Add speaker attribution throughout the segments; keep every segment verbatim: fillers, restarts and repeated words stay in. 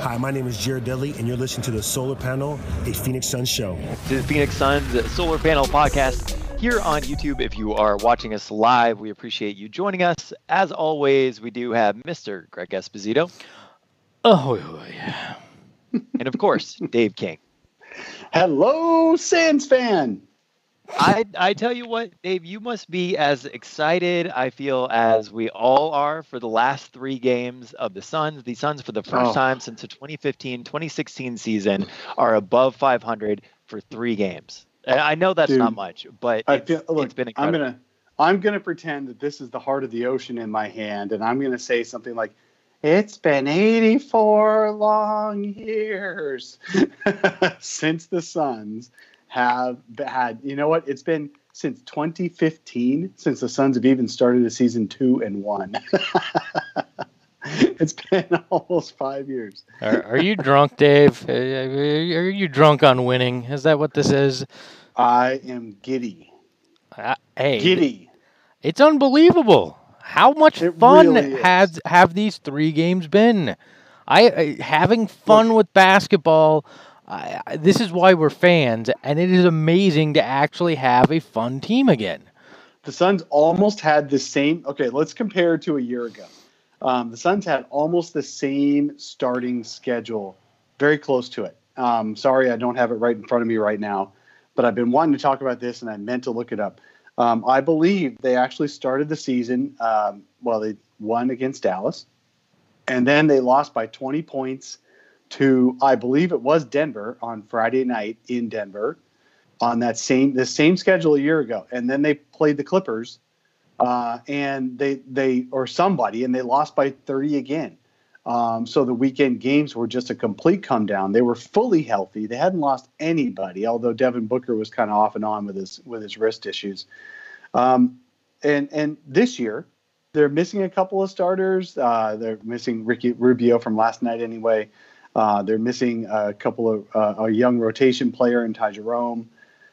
Speaker 1: Hi, my name is Jared Dudley, and you're listening to the Solar Panel, a Phoenix Suns show.
Speaker 2: To the Phoenix Suns Solar Panel podcast here on YouTube. If you are watching us live, we appreciate you joining us. As always, we do have Mister Greg Esposito.
Speaker 3: Oh, yeah.
Speaker 2: And of course, Dave King.
Speaker 4: Hello, Suns fan.
Speaker 2: I I tell you what, Dave, you must be as excited, I feel, as we all are for the last three games of the Suns. The Suns, for the first
Speaker 4: Oh.
Speaker 2: time since the twenty fifteen twenty sixteen season, are above five hundred for three games. And I know that's
Speaker 4: Dude,
Speaker 2: not much, but
Speaker 4: I
Speaker 2: it's,
Speaker 4: feel, look,
Speaker 2: it's been
Speaker 4: I'm
Speaker 2: incredible.
Speaker 4: gonna I'm gonna pretend that this is the heart of the ocean in my hand, and I'm gonna say something like, "It's been eighty-four long years since the Suns have had." You know what? It's been since twenty fifteen since the Suns have even started a season two and one. It's been almost five years.
Speaker 3: Are, are you drunk, Dave? Uh, Are you drunk on winning? Is that what this is?
Speaker 4: I am giddy,
Speaker 3: Uh, hey,
Speaker 4: giddy.
Speaker 3: it's unbelievable. How much
Speaker 4: It
Speaker 3: fun
Speaker 4: really is.
Speaker 3: has have these three games been? I, I having fun with basketball. I, I- this is why we're fans, and it is amazing to actually have a fun team again.
Speaker 4: The Suns almost had the same. Okay, let's compare to a year ago. Um, the Suns had almost the same starting schedule, very close to it. Um, sorry, I don't have it right in front of me right now, but I've been wanting to talk about this, and I meant to look it up. Um, I believe they actually started the season. Um, well, they won against Dallas, and then they lost by twenty points to, I believe it was Denver on Friday night in Denver on that same the same schedule a year ago, and then they played the Clippers. Uh, and they they or somebody, and they lost by thirty again. Um, so the weekend games were just a complete come down. They were fully healthy. They hadn't lost anybody, although Devin Booker was kind of off and on with his with his wrist issues. Um, and and this year they're missing a couple of starters. Uh, they're missing Ricky Rubio from last night anyway. Uh, they're missing a couple of uh, a young rotation player in Ty Jerome,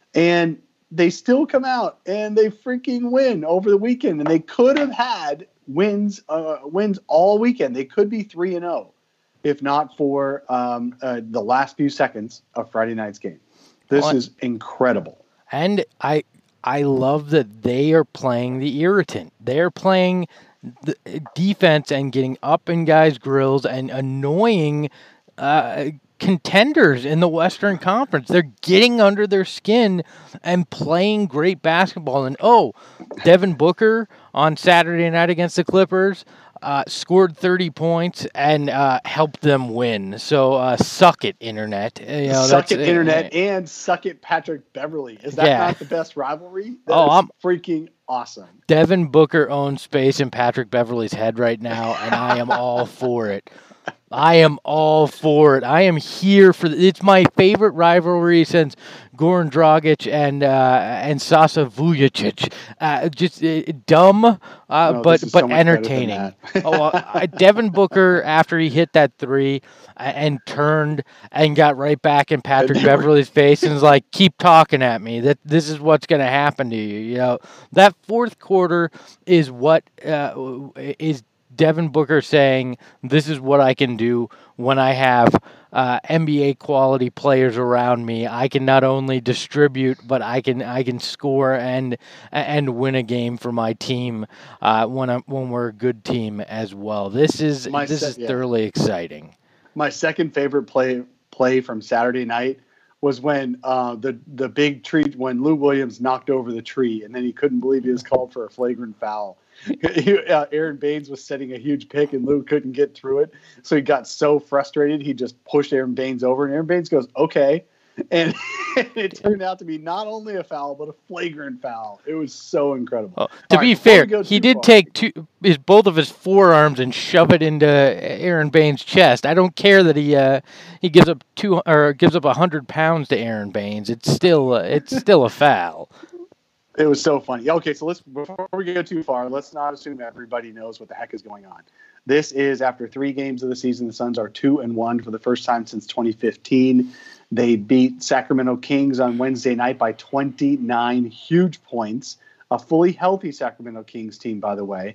Speaker 4: and they still come out and they freaking win over the weekend. And they could have had wins, uh, wins all weekend. They could be three and zero, if not for um, uh, the last few seconds of Friday night's game. This
Speaker 3: Well,
Speaker 4: is incredible.
Speaker 3: And I I love that they are playing the irritant. They're playing the defense and getting up in guys' grills and annoying uh, contenders in the Western Conference. They're getting under their skin and playing great basketball. And oh, Devin Booker on Saturday night against the Clippers uh, scored thirty points and uh, helped them win. So uh, suck it, Internet. You know,
Speaker 4: Suck
Speaker 3: that's-
Speaker 4: it, Internet, and suck it, Patrick Beverly. Is that
Speaker 3: Yeah.
Speaker 4: not the best rivalry? That
Speaker 3: Oh,
Speaker 4: is
Speaker 3: I'm-
Speaker 4: freaking awesome.
Speaker 3: Devin Booker owns space in Patrick Beverly's head right now, and I am all for it. I am all for it. I am here for the, it's my favorite rivalry since Goran Dragic and uh, and Sasa Vujacic. Uh, just uh, dumb, uh,
Speaker 4: No,
Speaker 3: but
Speaker 4: this is
Speaker 3: but
Speaker 4: so much better than
Speaker 3: entertaining.
Speaker 4: that.
Speaker 3: oh, uh, Devin Booker, after he hit that three uh, and turned and got right back in Patrick
Speaker 4: And they were-
Speaker 3: Beverly's face and was like, "Keep talking at me. That this is what's going to happen to you." You know, that fourth quarter is what uh, is Devin Booker saying, "This is what I can do when I have uh, N B A quality players around me. I can not only distribute, but I can I can score and and win a game for my team uh, when I'm, when we're a good team as well." This is
Speaker 4: My
Speaker 3: this
Speaker 4: se-
Speaker 3: is
Speaker 4: yeah.
Speaker 3: thoroughly exciting.
Speaker 4: My second favorite play play from Saturday night was when uh, the the big tree when Lou Williams knocked over the tree, and then he couldn't believe he was called for a flagrant foul. He, uh, Aaron Baines was setting a huge pick, and Lou couldn't get through it, so he got so frustrated he just pushed Aaron Baines over, and Aaron Baines goes, "Okay," and it turned out to be not only a foul but a flagrant foul. It was so incredible.
Speaker 3: Well, to
Speaker 4: All
Speaker 3: be
Speaker 4: right, before
Speaker 3: fair,
Speaker 4: we go
Speaker 3: he
Speaker 4: too
Speaker 3: did
Speaker 4: far-
Speaker 3: take two his both of his forearms and shove it into Aaron Baines' chest. I don't care that he uh, he gives up two or gives up a hundred pounds to Aaron Baines. It's still uh, it's still a foul.
Speaker 4: It was so funny. Okay, so let's before we go too far, let's not assume everybody knows what the heck is going on. This is after three games of the season. The Suns are two and one for the first time since twenty fifteen. They beat Sacramento Kings on Wednesday night by twenty-nine huge points. A fully healthy Sacramento Kings team, by the way.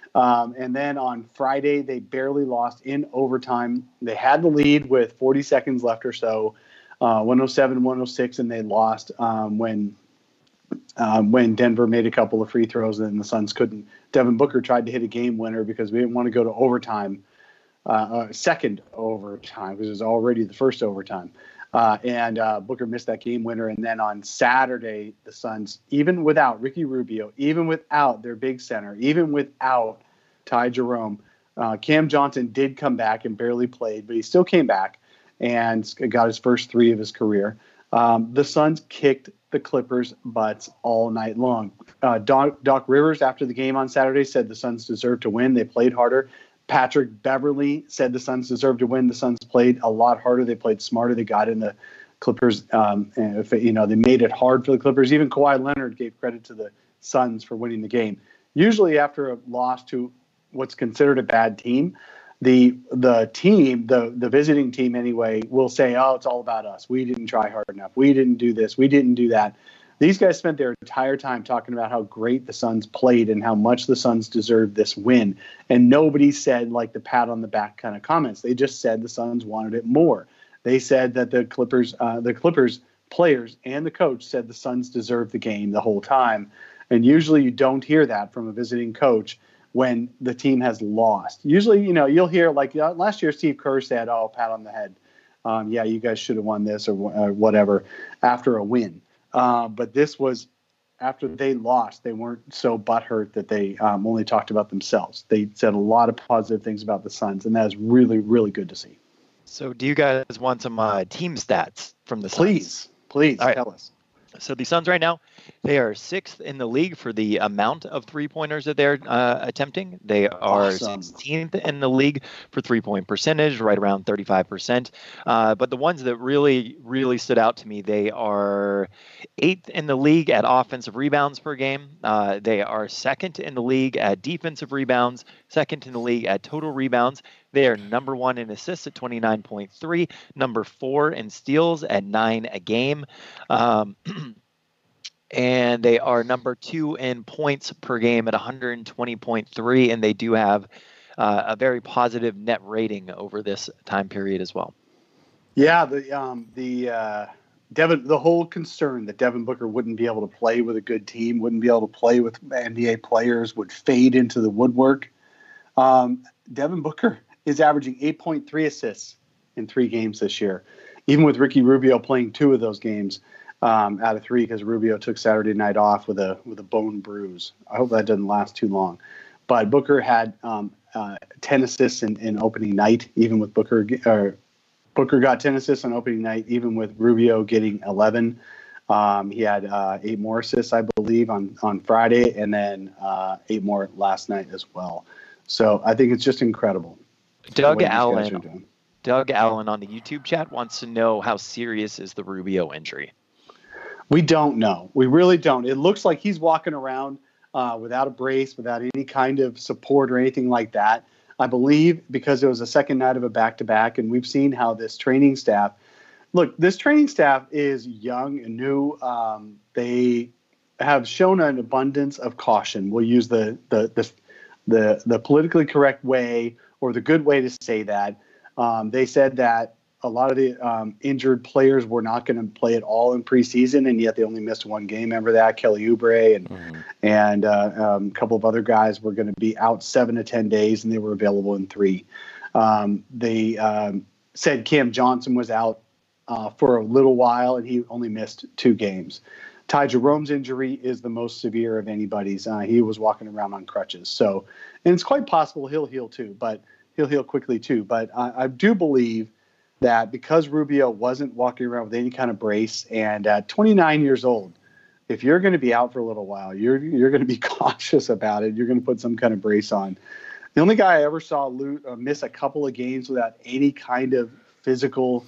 Speaker 4: Um, and then on Friday, they barely lost in overtime. They had the lead with forty seconds left or so, uh, one oh seven, one oh six, and they lost um, when um, when Denver made a couple of free throws and the Suns couldn't. Devin Booker tried to hit a game winner because we didn't want to go to overtime, uh, uh, second overtime, because it was already the first overtime. Uh, and uh, Booker missed that game winner. And then on Saturday, the Suns, even without Ricky Rubio, even without their big center, even without Ty Jerome, uh, Cam Johnson did come back and barely played, but he still came back and got his first three of his career. Um, the Suns kicked the Clippers' butts all night long. Uh, Doc, Doc Rivers, after the game on Saturday, said the Suns deserved to win. They played harder. Patrick Beverley said the Suns deserved to win. The Suns played a lot harder. They played smarter. They got in the Clippers. Um, and if, you know, they made it hard for the Clippers. Even Kawhi Leonard gave credit to the Suns for winning the game. Usually after a loss to what's considered a bad team, the the team, the the visiting team anyway, will say, oh, it's all about us. We didn't try hard enough. We didn't do this. We didn't do that. These guys spent their entire time talking about how great the Suns played and how much the Suns deserved this win. And nobody said like the pat on the back kind of comments. They just said the Suns wanted it more. They said that the Clippers, uh, the Clippers players and the coach said the Suns deserved the game the whole time. And usually you don't hear that from a visiting coach when the team has lost. Usually, you know, you'll hear like uh, last year Steve Kerr said, oh, pat on the head. Um, yeah, you guys should have won this or, or whatever after a win. Uh, but this was after they lost. They weren't so butthurt that they um, only talked about themselves. They said a lot of positive things about the Suns, and that is really, really good to see.
Speaker 2: So do you guys want some uh, team stats from the Suns?
Speaker 4: Please, please
Speaker 2: All right.
Speaker 4: tell us.
Speaker 2: So the Suns right now, they are sixth in the league for the amount of three-pointers that they're uh, attempting. They are
Speaker 4: Awesome.
Speaker 2: sixteenth in the league for three-point percentage, right around thirty-five percent. Uh, but the ones that really, really stood out to me, they are eighth in the league at offensive rebounds per game. Uh, they are second in the league at defensive rebounds, second in the league at total rebounds. They are number one in assists at twenty-nine point three, number four in steals at nine a game. Um, and they are number two in points per game at one hundred twenty point three, and they do have uh, a very positive net rating over this time period as well.
Speaker 4: Yeah, the um, the uh, Devin, the whole concern that Devin Booker wouldn't be able to play with a good team, wouldn't be able to play with N B A players, would fade into the woodwork. Um, Devin Booker is averaging eight point three assists in three games this year, even with Ricky Rubio playing two of those games um, out of three because Rubio took Saturday night off with a with a bone bruise. I hope that doesn't last too long. But Booker had um, uh, ten assists in, in opening night, even with Booker. Or Booker got ten assists on opening night, even with Rubio getting eleven. Um, he had uh, eight more assists, I believe, on, on Friday, and then uh, eight more last night as well. So I think it's just incredible.
Speaker 2: Doug Allen, Doug Allen on the YouTube chat wants to know how serious is the Rubio injury.
Speaker 4: We don't know. We really don't. It looks like he's walking around uh, without a brace, without any kind of support or anything like that. I believe because it was a second night of a back-to-back, and we've seen how this training staff – look, this training staff is young and new. Um, they have shown an abundance of caution. We'll use the the the the, the politically correct way or the good way to say that. Um, they said that a lot of the um, injured players were not going to play at all in preseason, and yet they only missed one game. Remember that? Kelly Oubre and mm-hmm. and uh, um, a couple of other guys were going to be out seven to ten days, and they were available in three. Um, they um, said Cam Johnson was out uh, for a little while, and he only missed two games. Ty Jerome's injury is the most severe of anybody's. Uh, he was walking around on crutches. So, and it's quite possible he'll heal too, but he'll heal quickly too. But I, I do believe that because Rubio wasn't walking around with any kind of brace, and at twenty-nine years old, if you're going to be out for a little while, you're you're going to be cautious about it. You're going to put some kind of brace on. The only guy I ever saw lo- uh, miss a couple of games without any kind of physical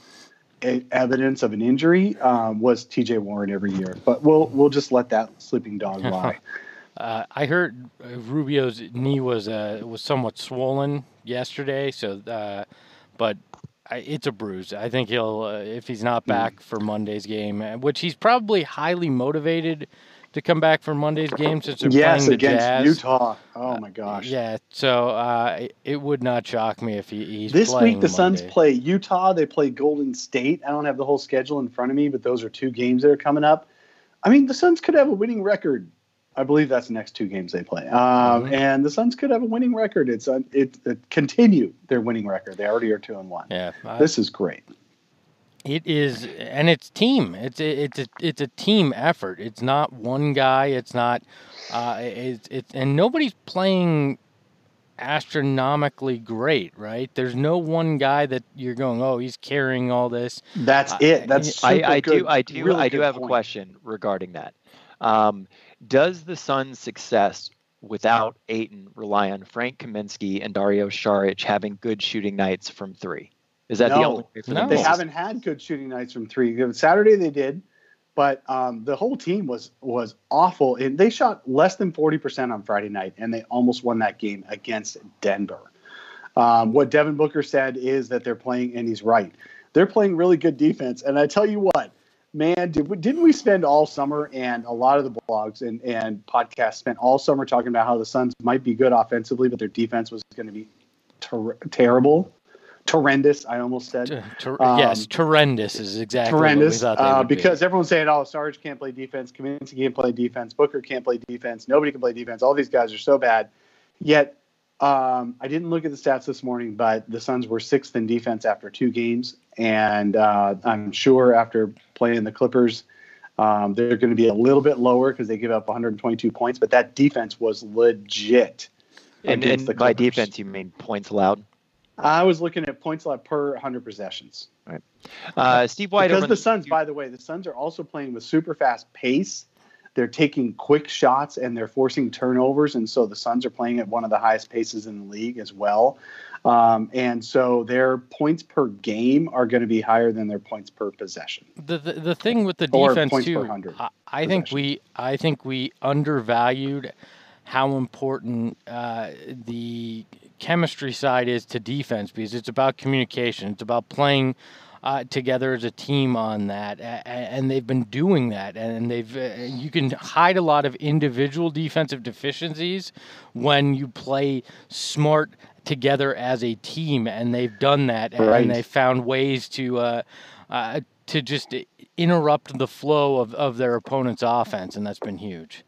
Speaker 4: evidence of an injury um, was T J Warren every year, but we'll we'll just let that sleeping dog lie.
Speaker 3: uh, I heard Rubio's knee was uh, was somewhat swollen yesterday, so uh, but I, it's a bruise. I think he'll uh, if he's not back mm. for Monday's game, which he's probably highly motivated to come back for Monday's game since they're
Speaker 4: yes,
Speaker 3: playing the
Speaker 4: against
Speaker 3: Jazz.
Speaker 4: Utah. Oh my gosh.
Speaker 3: Uh, yeah, so uh, it, it would not shock me if he, he's
Speaker 4: This
Speaker 3: playing
Speaker 4: week the Suns
Speaker 3: Monday.
Speaker 4: play Utah. They play Golden State. I don't have the whole schedule in front of me, but those are two games that are coming up. I mean, the Suns could have a winning record. I believe that's the next two games they play. Um,
Speaker 3: Mm-hmm.
Speaker 4: And the Suns could have a winning record. It's uh, it, it continue their winning record. They already are two and one.
Speaker 3: Yeah, I-
Speaker 4: This is great.
Speaker 3: It is, and it's team. It's a, it's a it's a team effort. It's not one guy. It's not. Uh, it's it's and nobody's playing astronomically great, right? There's no one guy that you're going, oh, he's carrying all this.
Speaker 4: That's
Speaker 3: Uh,
Speaker 4: it. That's
Speaker 2: I,
Speaker 4: super
Speaker 2: I
Speaker 4: good.
Speaker 2: do I do
Speaker 4: Really
Speaker 2: I do
Speaker 4: good
Speaker 2: have
Speaker 4: point.
Speaker 2: a question regarding that. Um, does the Suns' success without Ayton rely on Frank Kaminsky and Dario Saric having good shooting nights from three? Is that the
Speaker 4: No.
Speaker 2: only way for
Speaker 3: No.
Speaker 2: them
Speaker 4: They
Speaker 2: to
Speaker 4: haven't had good shooting nights from three. Saturday they did, but um, the whole team was was awful. And they shot less than forty percent on Friday night, and they almost won that game against Denver. Um, what Devin Booker said is that they're playing, and he's right. They're playing really good defense. And I tell you what, man, did we, didn't we spend all summer, and a lot of the blogs and, and podcasts spent all summer talking about how the Suns might be good offensively, but their defense was going to be ter- terrible. Horrendous, I almost said.
Speaker 3: T- ter-
Speaker 4: Um,
Speaker 3: yes, horrendous is exactly
Speaker 4: Horrendous,
Speaker 3: what we thought they
Speaker 4: uh,
Speaker 3: would be.
Speaker 4: because everyone's saying, "Oh, Sarge can't play defense, Kaminsky can't play defense, Booker can't play defense, nobody can play defense. All these guys are so bad." Yet, um, I didn't look at the stats this morning, but the Suns were sixth in defense after two games, and uh, I'm sure after playing the Clippers, um, they're going to be a little bit lower because they give up one hundred twenty-two points. But that defense was legit.
Speaker 2: And,
Speaker 4: against
Speaker 2: and
Speaker 4: the
Speaker 2: by
Speaker 4: Clippers.
Speaker 2: defense, you mean points allowed?
Speaker 4: I was looking at points allowed per one hundred possessions.
Speaker 2: Uh, Steve White
Speaker 4: Because
Speaker 2: over
Speaker 4: the Suns, by the way, the Suns are also playing with super fast pace. They're taking quick shots and they're forcing turnovers, and so the Suns are playing at one of the highest paces in the league as well. Um, and so their points per game are going to be higher than their points per possession.
Speaker 3: The, the the thing with the
Speaker 4: Or
Speaker 3: defense
Speaker 4: points per
Speaker 3: too,
Speaker 4: one hundred
Speaker 3: I, I think
Speaker 4: possessions.
Speaker 3: we I think we undervalued how important uh, the chemistry side is to defense, because it's about communication. It's about playing uh, together as a team on that, a- a- and they've been doing that. And they've uh, you can hide a lot of individual defensive deficiencies when you play smart together as a team, and they've done that, and,
Speaker 4: Right.
Speaker 3: and they found ways to uh, uh, to just interrupt the flow of, of their opponent's offense, and that's been huge.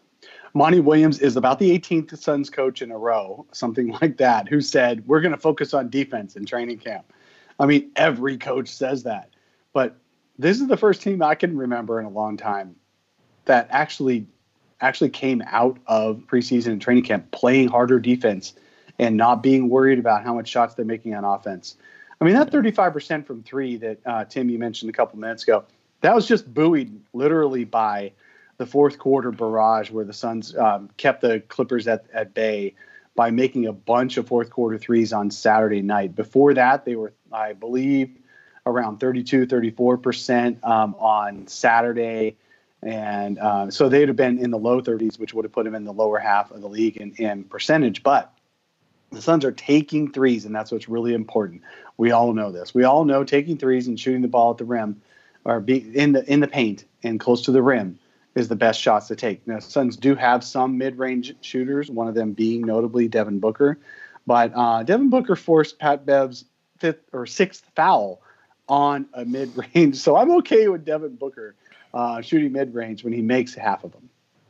Speaker 4: Monty Williams is about the eighteenth Suns coach in a row, something like that, who said, we're going to focus on defense in training camp. I mean, every coach says that. But this is the first team I can remember in a long time that actually actually came out of preseason and training camp playing harder defense and not being worried about how much shots they're making on offense. I mean, that thirty-five percent from three that, uh, Tim, you mentioned a couple minutes ago, that was just buoyed literally by the fourth quarter barrage where the Suns um, kept the Clippers at, at bay by making a bunch of fourth quarter threes on Saturday night. Before that, they were, I believe, around thirty-two, thirty-four percent um, on Saturday. And uh, so they'd have been in the low thirties, which would have put them in the lower half of the league in, in percentage. But the Suns are taking threes, and that's what's really important. We all know this. We all know taking threes and shooting the ball at the rim or be in the in the paint and close to the rim is the best shots to take. Now, Suns do have some mid-range shooters, one of them being notably Devin Booker. But uh, Devin Booker forced Pat Bev's fifth or sixth foul on a mid-range. So I'm okay with Devin Booker uh, shooting mid-range when he makes half of them.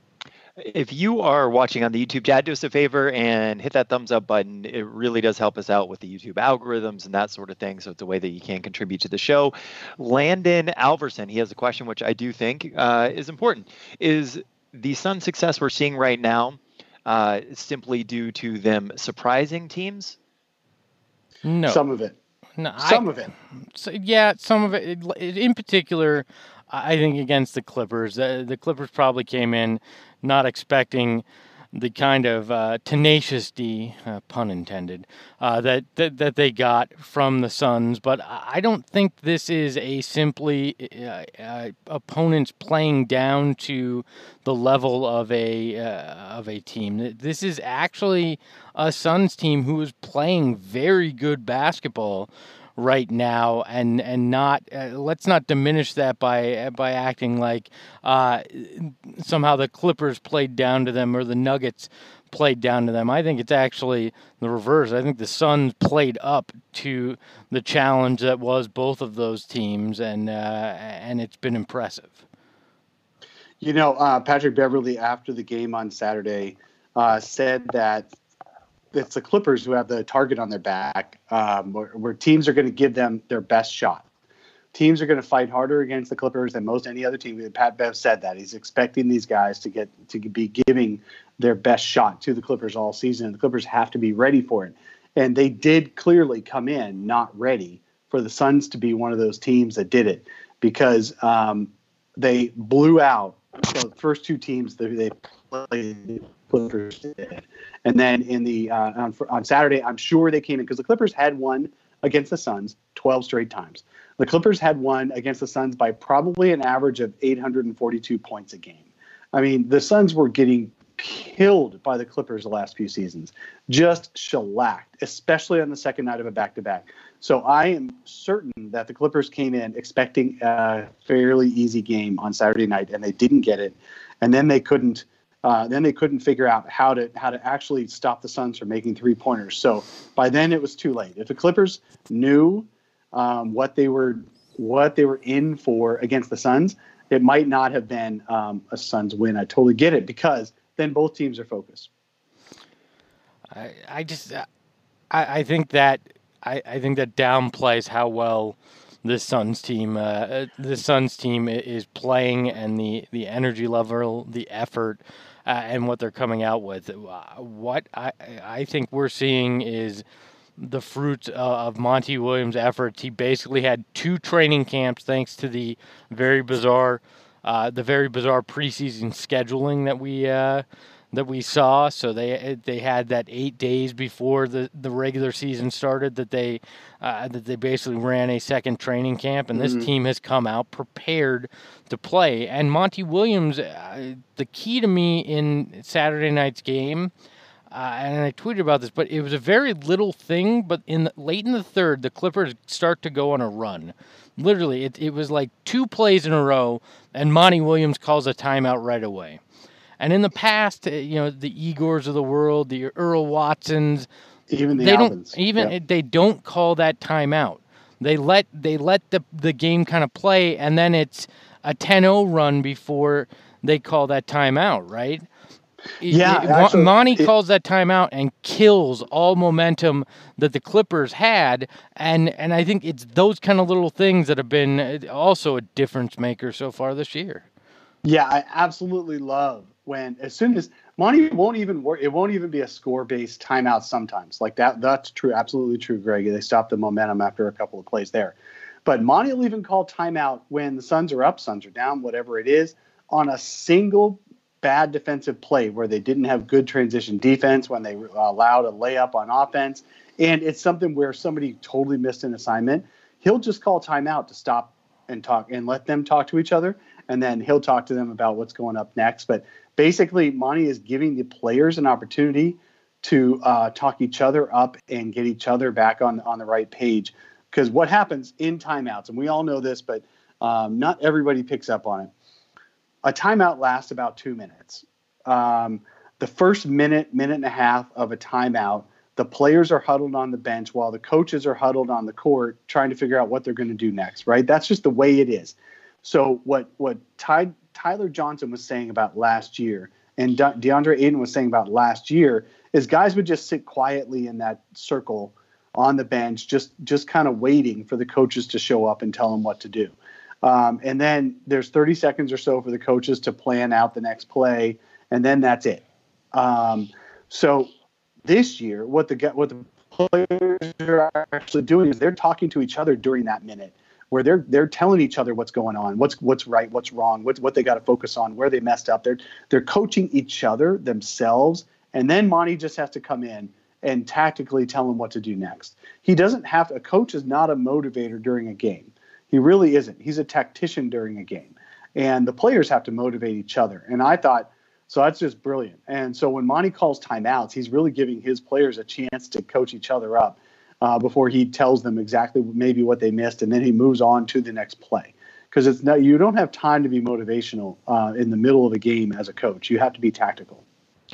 Speaker 2: If you are watching on the YouTube chat, do us a favor and hit that thumbs up button. It really does help us out with the YouTube algorithms and that sort of thing. So it's a way that you can contribute to the show. Landon Alverson, he has a question which I do think uh, is important. Is the Sun success we're seeing right now uh, simply due to them surprising teams?
Speaker 3: No,
Speaker 4: Some of it.
Speaker 3: no,
Speaker 4: Some
Speaker 3: I,
Speaker 4: of it.
Speaker 3: So, yeah, some of it. it- In particular, I think against the Clippers, uh, the Clippers probably came in not expecting the kind of uh, tenacity, uh, pun intended, uh, that, that that they got from the Suns. But I I don't think this is a simply uh, uh, opponents playing down to the level of a uh, of a team. This is actually a Suns team who is playing very good basketball right now, and and not uh, let's not diminish that by by acting like uh, somehow the Clippers played down to them or the Nuggets played down to them. I think it's actually the reverse. I think the Suns played up to the challenge that was both of those teams, and uh, and it's been impressive.
Speaker 4: You know, uh, Patrick Beverley, after the game on Saturday, uh, said that it's the Clippers who have the target on their back, um, where, where teams are going to give them their best shot. Teams are going to fight harder against the Clippers than most any other team. Pat Bev said that. He's expecting these guys to get to be giving their best shot to the Clippers all season, and the Clippers have to be ready for it. And they did clearly come in not ready for the Suns to be one of those teams that did it, because um, they blew out so the first two teams that they played. The Clippers did. And then in the uh, on, on Saturday, I'm sure they came in because the Clippers had won against the Suns twelve straight times. The Clippers had won against the Suns by probably an average of eight hundred forty-two points a game. I mean, the Suns were getting killed by the Clippers the last few seasons, just shellacked, especially on the second night of a back-to-back. So I am certain that the Clippers came in expecting a fairly easy game on Saturday night, and they didn't get it. And then they couldn't. Uh, then they couldn't figure out how to how to actually stop the Suns from making three-pointers. So by then it was too late. If the Clippers knew um, what they were what they were in for against the Suns, it might not have been um, a Suns win. I totally get it, because then both teams are focused.
Speaker 3: I, I just I, I think that I, I think that downplays how well this Suns team uh, the Suns team is playing, and the, the energy level, the effort, uh, and what they're coming out with. What I I think we're seeing is the fruits of Monty Williams' efforts. He basically had two training camps thanks to the very bizarre, uh, the very bizarre preseason scheduling that we uh, that we saw. So they they had that eight days before the, the regular season started that they uh, that they basically ran a second training camp, and this mm-hmm. team has come out prepared to play. And Monty Williams, uh, the key to me in Saturday night's game. Uh, and I tweeted about this, but it was a very little thing. But in the, late in the third, the Clippers start to go on a run. Literally, it, it was like two plays in a row, and Monty Williams calls a timeout right away. And in the past, you know, the Igors of the world, the Earl Watsons,
Speaker 4: even the
Speaker 3: they
Speaker 4: Albans.
Speaker 3: don't even
Speaker 4: yep.
Speaker 3: they don't call that timeout. They let they let the the game kind of play, and then it's a ten oh run before they call that timeout, right?
Speaker 4: Yeah,
Speaker 3: it,
Speaker 4: actually,
Speaker 3: Monty
Speaker 4: it,
Speaker 3: calls that timeout and kills all momentum that the Clippers had, and and I think it's those kind of little things that have been also a difference maker so far this year.
Speaker 4: Yeah, I absolutely love when as soon as Monty won't even work, it won't even be a score-based timeout sometimes. Like that, that's true, absolutely true, Greg. They stop the momentum after a couple of plays there. But Monty will even call timeout when the Suns are up, Suns are down, whatever it is, on a single bad defensive play where they didn't have good transition defense, when they allowed a layup on offense. And it's something where somebody totally missed an assignment. He'll just call timeout to stop and talk and let them talk to each other. And then he'll talk to them about what's going up next. But basically, Monty is giving the players an opportunity to uh, talk each other up and get each other back on, on the right page. Because what happens in timeouts, and we all know this, but um, not everybody picks up on it. A timeout lasts about two minutes. Um, the first minute, minute and a half of a timeout, the players are huddled on the bench while the coaches are huddled on the court trying to figure out what they're going to do next, right? That's just the way it is. So what what Ty, Tyler Johnson was saying about last year and De- DeAndre Ayton was saying about last year is guys would just sit quietly in that circle on the bench, just just kind of waiting for the coaches to show up and tell them what to do. Um, and then there's thirty seconds or so for the coaches to plan out the next play, and then that's it. Um, so this year, what the what the players are actually doing is they're talking to each other during that minute, where they're they're telling each other what's going on, what's what's right, what's wrong, what's what they got to focus on, where they messed up. They're they're coaching each other themselves, and then Monty just has to come in and tactically tell them what to do next. He doesn't have to. A coach is not a motivator during a game. He really isn't. He's a tactician during a game. And the players have to motivate each other. And I thought, so that's just brilliant. And so when Monty calls timeouts, he's really giving his players a chance to coach each other up. uh, before he tells them exactly maybe what they missed, and then he moves on to the next play. Because it's not, you don't have time to be motivational uh, in the middle of a game as a coach. You have to be tactical.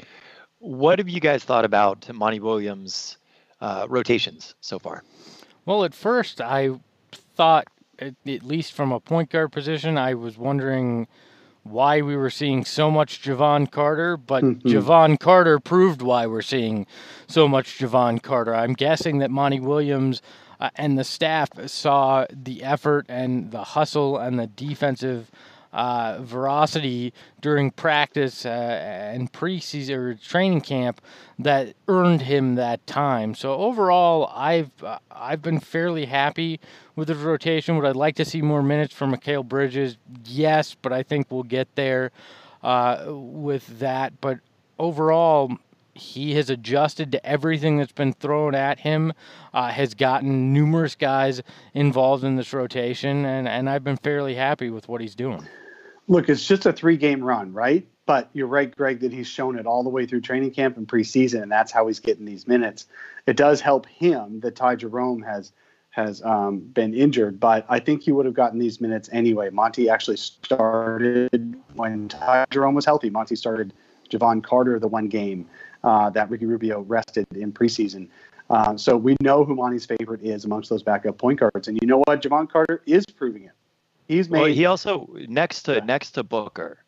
Speaker 2: What have you guys thought about Monty Williams' uh, rotations so far?
Speaker 3: Well, at first I thought, at, at least from a point guard position, I was wondering why we were seeing so much Javon Carter, but mm-hmm. Javon Carter proved why we're seeing so much Javon Carter. I'm guessing that Monty Williams uh, and the staff saw the effort and the hustle and the defensive uh, veracity during practice uh, and preseason or training camp that earned him that time. So overall, I've uh, I've been fairly happy with his rotation. Would I like to see more minutes from Mikal Bridges? Yes, but I think we'll get there uh, with that. But overall, he has adjusted to everything that's been thrown at him, uh, has gotten numerous guys involved in this rotation, and, and I've been fairly happy with what he's doing.
Speaker 4: Look, it's just a three-game run, right? But you're right, Greg, that he's shown it all the way through training camp and preseason, and that's how he's getting these minutes. It does help him that Ty Jerome has has um, been injured, but I think he would have gotten these minutes anyway. Monty actually started when Ty Jerome was healthy. Monty started Javon Carter the one game uh, that Ricky Rubio rested in preseason. Uh, so we know who Monty's favorite is amongst those backup point guards. And you know what? Javon Carter is proving it. He's made.
Speaker 2: Well, he also next to next to Booker,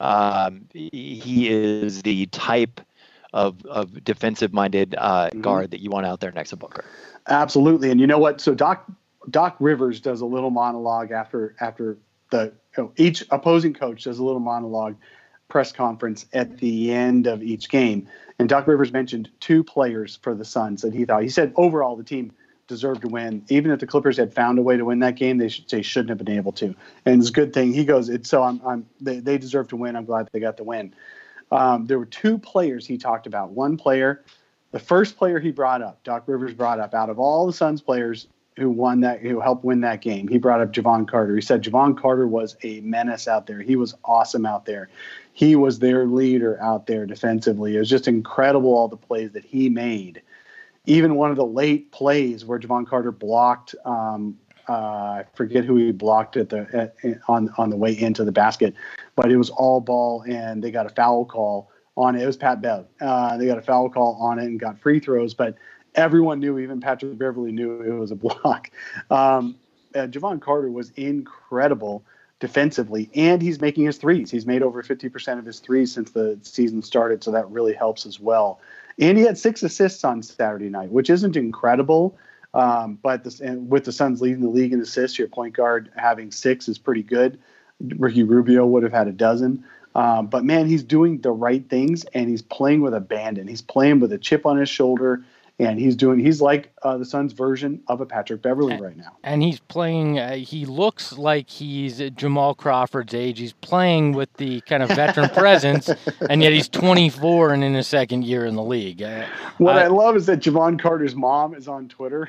Speaker 2: um, he is the type of of defensive minded uh, mm-hmm. guard that you want out there next to Booker.
Speaker 4: Absolutely, and you know what? So Doc Doc Rivers does a little monologue after after the you know, each opposing coach does a little monologue press conference at the end of each game, and Doc Rivers mentioned two players for the Suns that he thought. He said overall the team deserved to win. Even if the Clippers had found a way to win that game, they should they shouldn't have been able to. And it's a good thing. He goes, it's so I'm I'm they, they deserve to win. I'm glad they got the win. Um, there were two players he talked about. One player, the first player he brought up, Doc Rivers brought up, out of all the Suns players who won that, who helped win that game, he brought up Javon Carter. He said Javon Carter was a menace out there. He was awesome out there. He was their leader out there defensively. It was just incredible all the plays that he made. Even one of the late plays where Javon Carter blocked, um, uh, I forget who he blocked at the at, on on the way into the basket, but it was all ball, and they got a foul call on it. It was Pat Bev. Uh, they got a foul call on it and got free throws, but everyone knew, even Patrick Beverly knew it was a block. Um, uh, Javon Carter was incredible defensively, and he's making his threes. He's made over fifty percent of his threes since the season started, so that really helps as well. And he had six assists on Saturday night, which isn't incredible, um, but this, and with the Suns leading the league in assists, your point guard having six is pretty good. Ricky Rubio would have had a dozen. Um, but, man, he's doing the right things, and he's playing with abandon. He's playing with a chip on his shoulder, and he's doing. He's like uh, the Suns' version of a Patrick Beverly right now.
Speaker 3: And he's playing. Uh, he looks like he's Jamal Crawford's age. He's playing with the kind of veteran presence, and yet he's twenty-four and in his second year in the league. Uh,
Speaker 4: what I,
Speaker 3: I
Speaker 4: love is that Javon Carter's mom is on Twitter,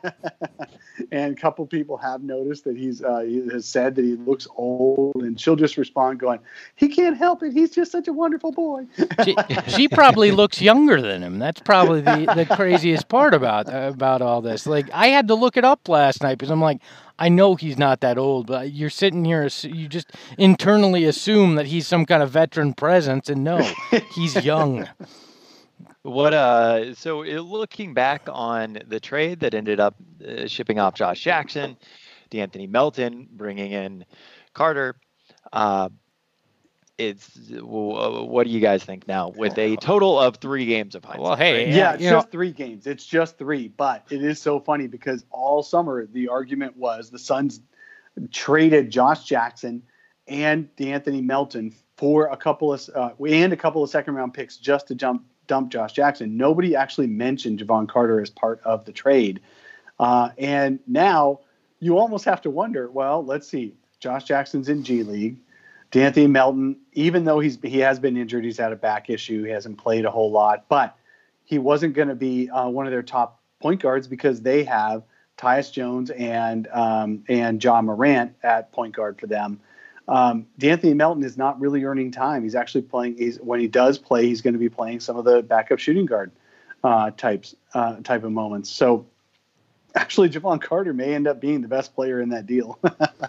Speaker 4: and a couple people have noticed that he's uh, he has said that he looks old, and she'll just respond going, "He can't help it. He's just such a wonderful boy."
Speaker 3: she, she probably looks younger than him. That's probably the the craziest part about uh, about all this. Like, I had to look it up last night because I'm like, I know he's not that old, but you're sitting here, you just internally assume that he's some kind of veteran presence, and no, he's young.
Speaker 2: What uh? So uh, looking back on the trade that ended up uh, shipping off Josh Jackson, D'Anthony Melton, bringing in Carter. Uh, It's what do you guys think now with a total of three games of hindsight?
Speaker 3: Well, hey,
Speaker 2: right?
Speaker 4: yeah, it's
Speaker 3: you
Speaker 4: just
Speaker 3: know,
Speaker 4: three games. It's just three, but it is so funny because all summer the argument was the Suns traded Josh Jackson and D'Anthony Melton for a couple of uh, and a couple of second round picks just to jump dump Josh Jackson. Nobody actually mentioned Javon Carter as part of the trade, uh, and now you almost have to wonder. Well, let's see. Josh Jackson's in G League. D'Anthony Melton, even though he's he has been injured, he's had a back issue. He hasn't played a whole lot, but he wasn't going to be uh, one of their top point guards because they have Tyus Jones and um, and John Morant at point guard for them. Um, D'Anthony Melton is not really earning time. He's actually playing. He's when he does play, he's going to be playing some of the backup shooting guard uh, types uh, type of moments. So actually, Javon Carter may end up being the best player in that deal.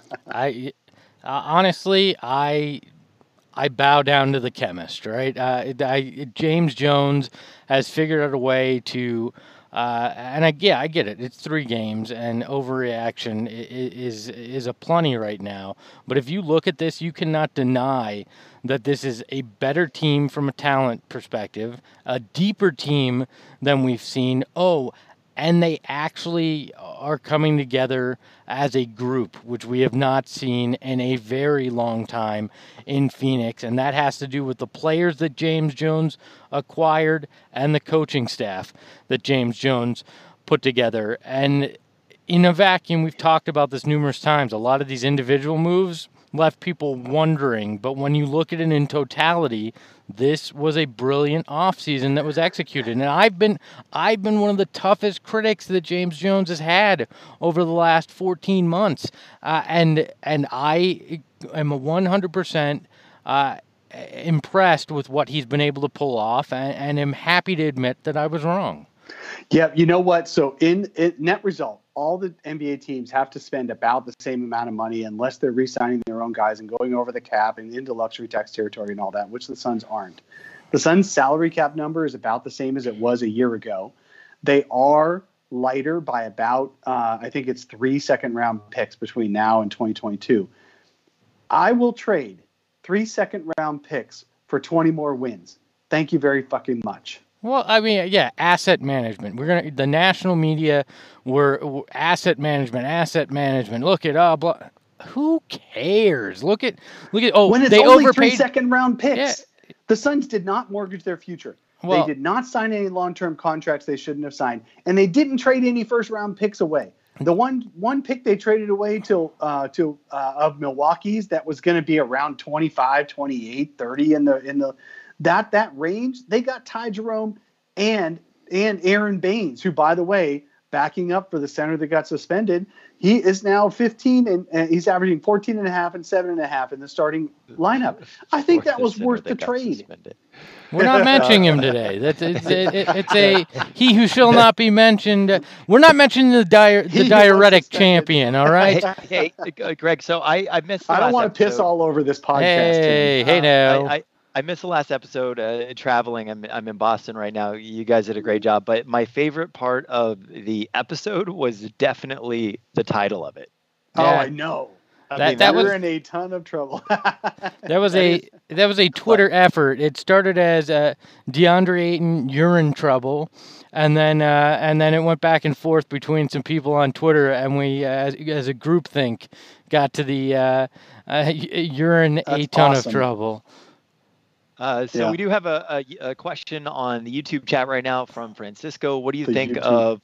Speaker 3: I uh, honestly, I I bow down to the chemist, right? Uh, I, James Jones has figured out a way to, uh, and I, yeah, I get it. It's three games, and overreaction is is a plenty right now. But if you look at this, you cannot deny that this is a better team from a talent perspective, a deeper team than we've seen. Oh, and they actually are coming together as a group, which we have not seen in a very long time in Phoenix. And that has to do with the players that James Jones acquired and the coaching staff that James Jones put together. And in a vacuum, we've talked about this numerous times. A lot of these individual moves left people wondering. But when you look at it in totality, this was a brilliant offseason that was executed. And I've been I've been one of the toughest critics that James Jones has had over the last fourteen months. Uh, and and I am one hundred percent uh, impressed with what he's been able to pull off, and, and am happy to admit that I was wrong.
Speaker 4: Yeah, you know what? So in, in net result, all the N B A teams have to spend about the same amount of money unless they're re-signing their own guys and going over the cap and into luxury tax territory and all that, which the Suns aren't. The Suns' salary cap number is about the same as it was a year ago. They are lighter by about, uh, I think it's three second-round picks between now and twenty twenty-two. I will trade three second-round picks for twenty more wins. Thank you very fucking much.
Speaker 3: Well, I mean, yeah, asset management. We're gonna the national media were, were asset management, asset management. Look at uh, blah. Who cares? Look at look at oh,
Speaker 4: when it's
Speaker 3: they
Speaker 4: only
Speaker 3: overpaid
Speaker 4: three second round picks.
Speaker 3: Yeah.
Speaker 4: The Suns did not mortgage their future.
Speaker 3: Well,
Speaker 4: they did not sign any long term contracts they shouldn't have signed, and they didn't trade any first round picks away. The one one pick they traded away to uh, to uh, of Milwaukee's that was going to be around twenty-five, twenty-eight, thirty in the in the that that range. They got Ty Jerome and and Aaron Baines, who, by the way, backing up for the center that got suspended, he is now fifteen and, and he's averaging fourteen and a half and seven and a half in the starting lineup. I think that was worth the trade.
Speaker 2: Suspended.
Speaker 3: We're not mentioning him today. That's it's, it, it, it's a he who shall not be mentioned. We're not mentioning the dire, the diuretic champion. All right.
Speaker 2: Hey, hey, Greg. So I I missed. The
Speaker 4: I don't
Speaker 2: last
Speaker 4: want to piss
Speaker 2: episode.
Speaker 4: all over this podcast.
Speaker 3: Hey,
Speaker 4: team.
Speaker 3: hey, now.
Speaker 2: I, I, I missed the last episode uh, traveling. I'm I'm in Boston right now. You guys did a great job. But my favorite part of the episode was definitely the title of it.
Speaker 4: Oh,
Speaker 3: Yeah.
Speaker 4: I know. I
Speaker 3: That-
Speaker 4: mean,
Speaker 3: that
Speaker 4: we're
Speaker 3: was-
Speaker 4: in a ton of trouble.
Speaker 3: That was a that was a Twitter effort. It started as uh, DeAndre Ayton urine trouble, and then uh, and then it went back and forth between some people on Twitter, and we uh, as, as a group think got to the uh, uh, urine a
Speaker 4: That's
Speaker 3: ton
Speaker 4: awesome.
Speaker 3: of trouble.
Speaker 2: Uh, so
Speaker 4: Yeah.
Speaker 2: we do have a, a, a question on the YouTube chat right now from Francisco. What do you
Speaker 4: The
Speaker 2: think
Speaker 4: YouTube.
Speaker 2: of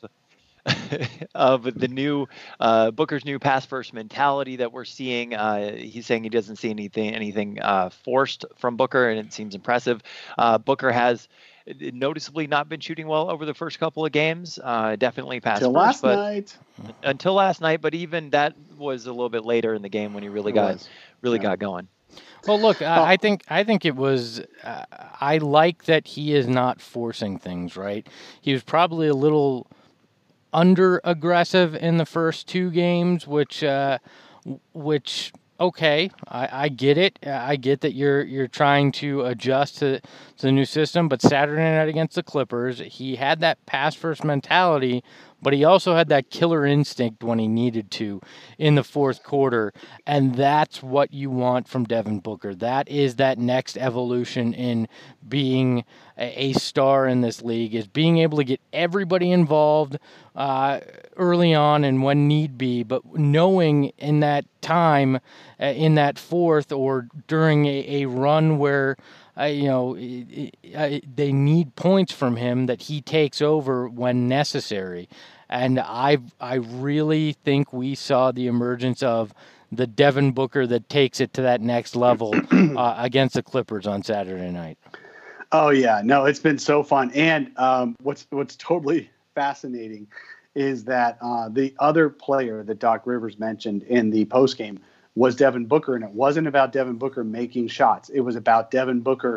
Speaker 2: of the new uh, Booker's new pass first mentality that we're seeing? Uh, he's saying he doesn't see anything anything uh, forced from Booker, and it seems impressive. Uh, Booker has noticeably not been shooting well over the first couple of games. Uh, definitely pass
Speaker 4: Till
Speaker 2: first,
Speaker 4: last
Speaker 2: but
Speaker 4: night.
Speaker 2: until last night. But even that was a little bit later in the game when he really
Speaker 4: It
Speaker 2: got
Speaker 4: was.
Speaker 2: really
Speaker 4: Yeah.
Speaker 2: got going.
Speaker 3: Well, look,
Speaker 4: Oh.
Speaker 3: I, I think I think it was. Uh, I like that he is not forcing things. Right, he was probably a little under aggressive in the first two games, which, uh, w- which okay, I, I get it. I get that you're you're trying to adjust to, to the new system. But Saturday night against the Clippers, he had that pass first mentality, but he also had that killer instinct when he needed to in the fourth quarter. And that's what you want from Devin Booker. That is that next evolution in being a, a star in this league, is being able to get everybody involved uh, early on and when need be, but knowing in that time, uh, in that fourth or during a, a run where uh, you know, i- i- they need points from him, that he takes over when necessary. And I I really think we saw the emergence of the Devin Booker that takes it to that next level uh, against the Clippers on Saturday night.
Speaker 4: Oh yeah, no, it's been so fun. And um, what's what's totally fascinating is that uh, the other player that Doc Rivers mentioned in the postgame was Devin Booker, and it wasn't about Devin Booker making shots. It was about Devin Booker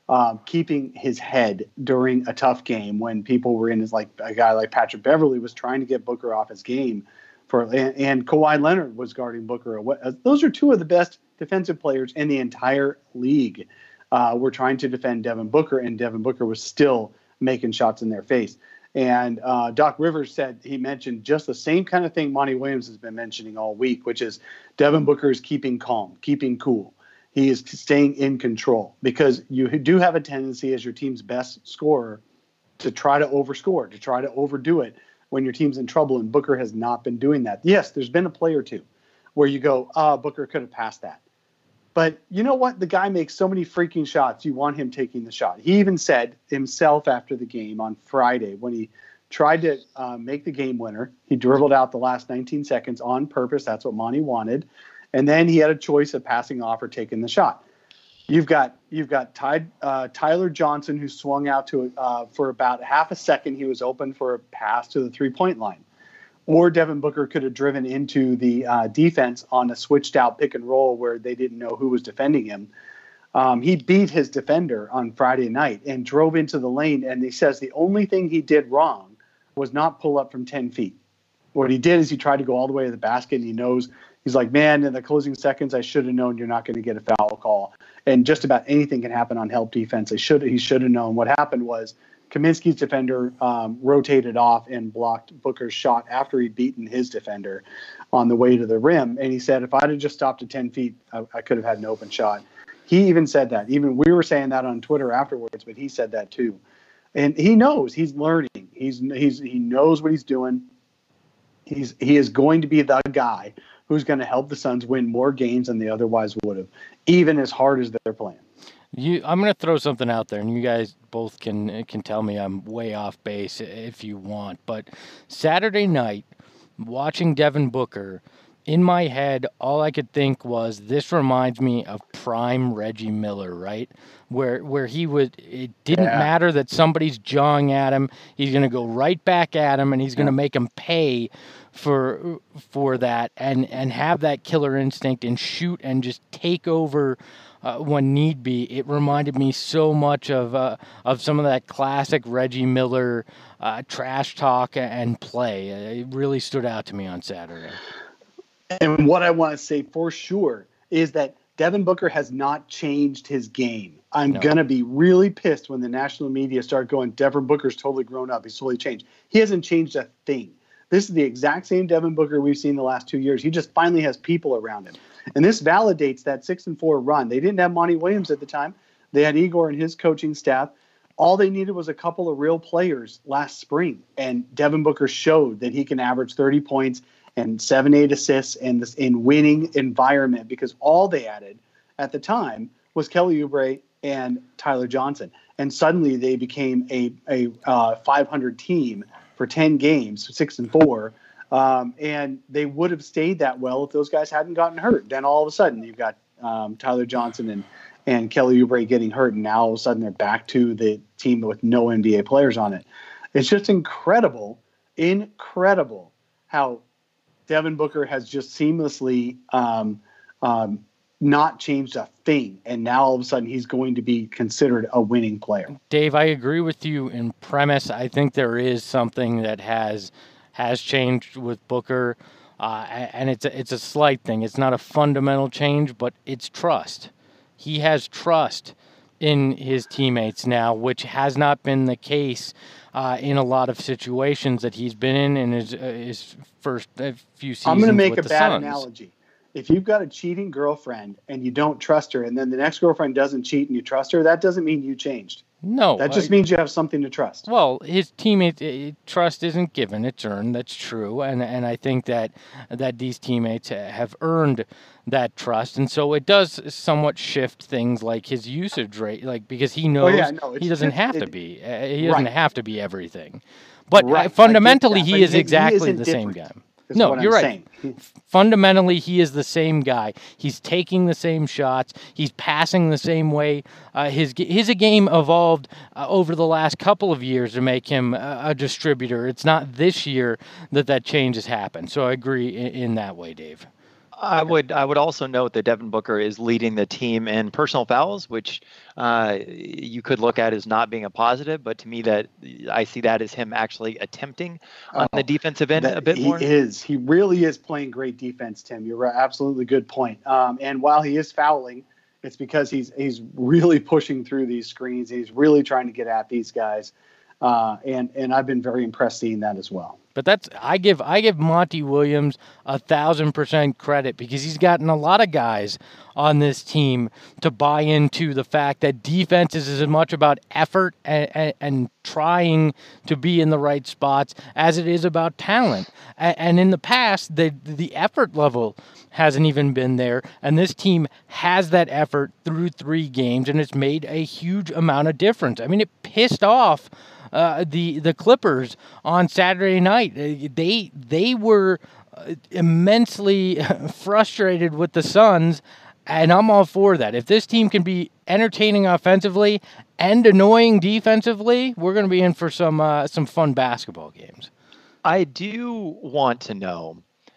Speaker 4: um, keeping his head during a tough game when people were in his, like a guy like Patrick Beverley was trying to get Booker off his game for, and, and Kawhi Leonard was guarding Booker. Those are two of the best defensive players in the entire league. Uh, were trying to defend Devin Booker, and Devin Booker was still making shots in their face. And uh, Doc Rivers said, he mentioned just the same kind of thing Monty Williams has been mentioning all week, which is Devin Booker is keeping calm, keeping cool. He is staying in control, because you do have a tendency as your team's best scorer to try to overscore, to try to overdo it when your team's in trouble, and Booker has not been doing that. Yes, there's been a play or two where you go, ah, oh, Booker could have passed that. But you know what? The guy makes so many freaking shots. You want him taking the shot. He even said himself after the game on Friday, when he tried to uh, make the game winner, he dribbled out the last nineteen seconds on purpose. That's what Monty wanted. And then he had a choice of passing off or taking the shot. You've got you've got Ty, uh, Tyler Johnson, who swung out to uh, for about half a second. He was open for a pass to the three-point line. Or Devin Booker could have driven into the uh, defense on a switched out pick and roll where they didn't know who was defending him. Um, he beat his defender on Friday night and drove into the lane. And he says the only thing he did wrong was not pull up from ten feet. What he did is he tried to go all the way to the basket, and he knows, he's like, man, in the closing seconds, I should have known you're not going to get a foul call. And just about anything can happen on help defense. I should he should have known. What happened was, Kaminsky's defender um, rotated off and blocked Booker's shot after he'd beaten his defender on the way to the rim. And he said, if I'd have just stopped at ten feet, I, I could have had an open shot. He even said that. Even we were saying that on Twitter afterwards, but he said that too. And he knows, he's learning. He's he's he knows what he's doing. He's he is going to be the guy who's going to help the Suns win more games than they otherwise would have, even as hard as they're playing.
Speaker 3: You, I'm going to throw something out there, and you guys both can can tell me I'm way off base if you want. But Saturday night, watching Devin Booker, in my head, all I could think was, this reminds me of prime Reggie Miller, right? Where where he would, it didn't yeah. matter that somebody's jawing at him. He's going to go right back at him, and he's going to yeah. make him pay for for that, and, and have that killer instinct and shoot and just take over Uh, when need be. It reminded me so much of uh, of some of that classic Reggie Miller uh, trash talk and play. It really stood out to me on Saturday.
Speaker 4: And what I want to say for sure is that Devin Booker has not changed his game. I'm no. going to be really pissed when the national media start going, Devin Booker's totally grown up. He's totally changed. He hasn't changed a thing. This is the exact same Devin Booker we've seen the last two years. He just finally has people around him. And this validates that six and four run. They didn't have Monty Williams at the time. They had Igor and his coaching staff. All they needed was a couple of real players last spring. And Devin Booker showed that he can average thirty points and seven, eight assists in this in winning environment, because all they added at the time was Kelly Oubre and Tyler Johnson. And suddenly they became a, a uh, five hundred team for ten games, six and four. Um, and they would have stayed that well if those guys hadn't gotten hurt. Then all of a sudden you've got um, Tyler Johnson and, and Kelly Oubre getting hurt, and now all of a sudden they're back to the team with no N B A players on it. It's just incredible, incredible how Devin Booker has just seamlessly um, um, not changed a thing, and now all of a sudden he's going to be considered a winning player.
Speaker 3: Dave, I agree with you in premise. I think there is something that has has changed with Booker, uh, and it's a, it's a slight thing. It's not a fundamental change, but it's trust. He has trust in his teammates now, which has not been the case uh, in a lot of situations that he's been in in his, uh, his first uh, few seasons.
Speaker 4: I'm going to make
Speaker 3: with
Speaker 4: a
Speaker 3: the
Speaker 4: bad
Speaker 3: Suns.
Speaker 4: analogy. If you've got a cheating girlfriend and you don't trust her, and then the next girlfriend doesn't cheat and you trust her, that doesn't mean you changed.
Speaker 3: No.
Speaker 4: That just
Speaker 3: I,
Speaker 4: means you have something to trust.
Speaker 3: Well, his teammate uh, trust isn't given; it's earned. That's true, and and I think that that these teammates have earned that trust, and so it does somewhat shift things like his usage rate, like because he knows
Speaker 4: oh, yeah, no,
Speaker 3: he doesn't
Speaker 4: just,
Speaker 3: have
Speaker 4: it,
Speaker 3: to be. Uh, he doesn't
Speaker 4: right.
Speaker 3: have to be everything, but
Speaker 4: right.
Speaker 3: uh, fundamentally,
Speaker 4: that,
Speaker 3: he
Speaker 4: but
Speaker 3: is
Speaker 4: he,
Speaker 3: exactly
Speaker 4: he
Speaker 3: the
Speaker 4: different.
Speaker 3: same guy.
Speaker 4: Is
Speaker 3: No,
Speaker 4: what
Speaker 3: you're
Speaker 4: I'm
Speaker 3: right.
Speaker 4: saying.
Speaker 3: Fundamentally, he is the same guy. He's taking the same shots. He's passing the same way. Uh, his his game evolved uh, over the last couple of years to make him a, a distributor. It's not this year that that change has happened. So I agree in, in that way, Dave.
Speaker 2: I would I would also note that Devin Booker is leading the team in personal fouls, which uh, you could look at as not being a positive, but to me that I see that as him actually attempting on
Speaker 4: Oh,
Speaker 2: the defensive end
Speaker 4: that
Speaker 2: a bit
Speaker 4: he
Speaker 2: more.
Speaker 4: is. He really is playing great defense, Tim. You're right. Absolutely good point. Um, and while he is fouling, it's because he's he's really pushing through these screens. He's really trying to get at these guys. Uh, and and I've been very impressed seeing that as well.
Speaker 3: But that's I give I give Monty Williams a thousand percent credit because he's gotten a lot of guys on this team to buy into the fact that defense is as much about effort and, and, and trying to be in the right spots as it is about talent. And, and in the past, the the effort level hasn't even been there, and this team has that effort through three games, and it's made a huge amount of difference. I mean, it pissed off Uh, the the Clippers on Saturday night. Uh, They they were uh, immensely frustrated with the Suns, and I'm all for that. If this team can be entertaining offensively and annoying defensively, we're going to be in for some uh, some fun basketball games.
Speaker 2: I do want to know.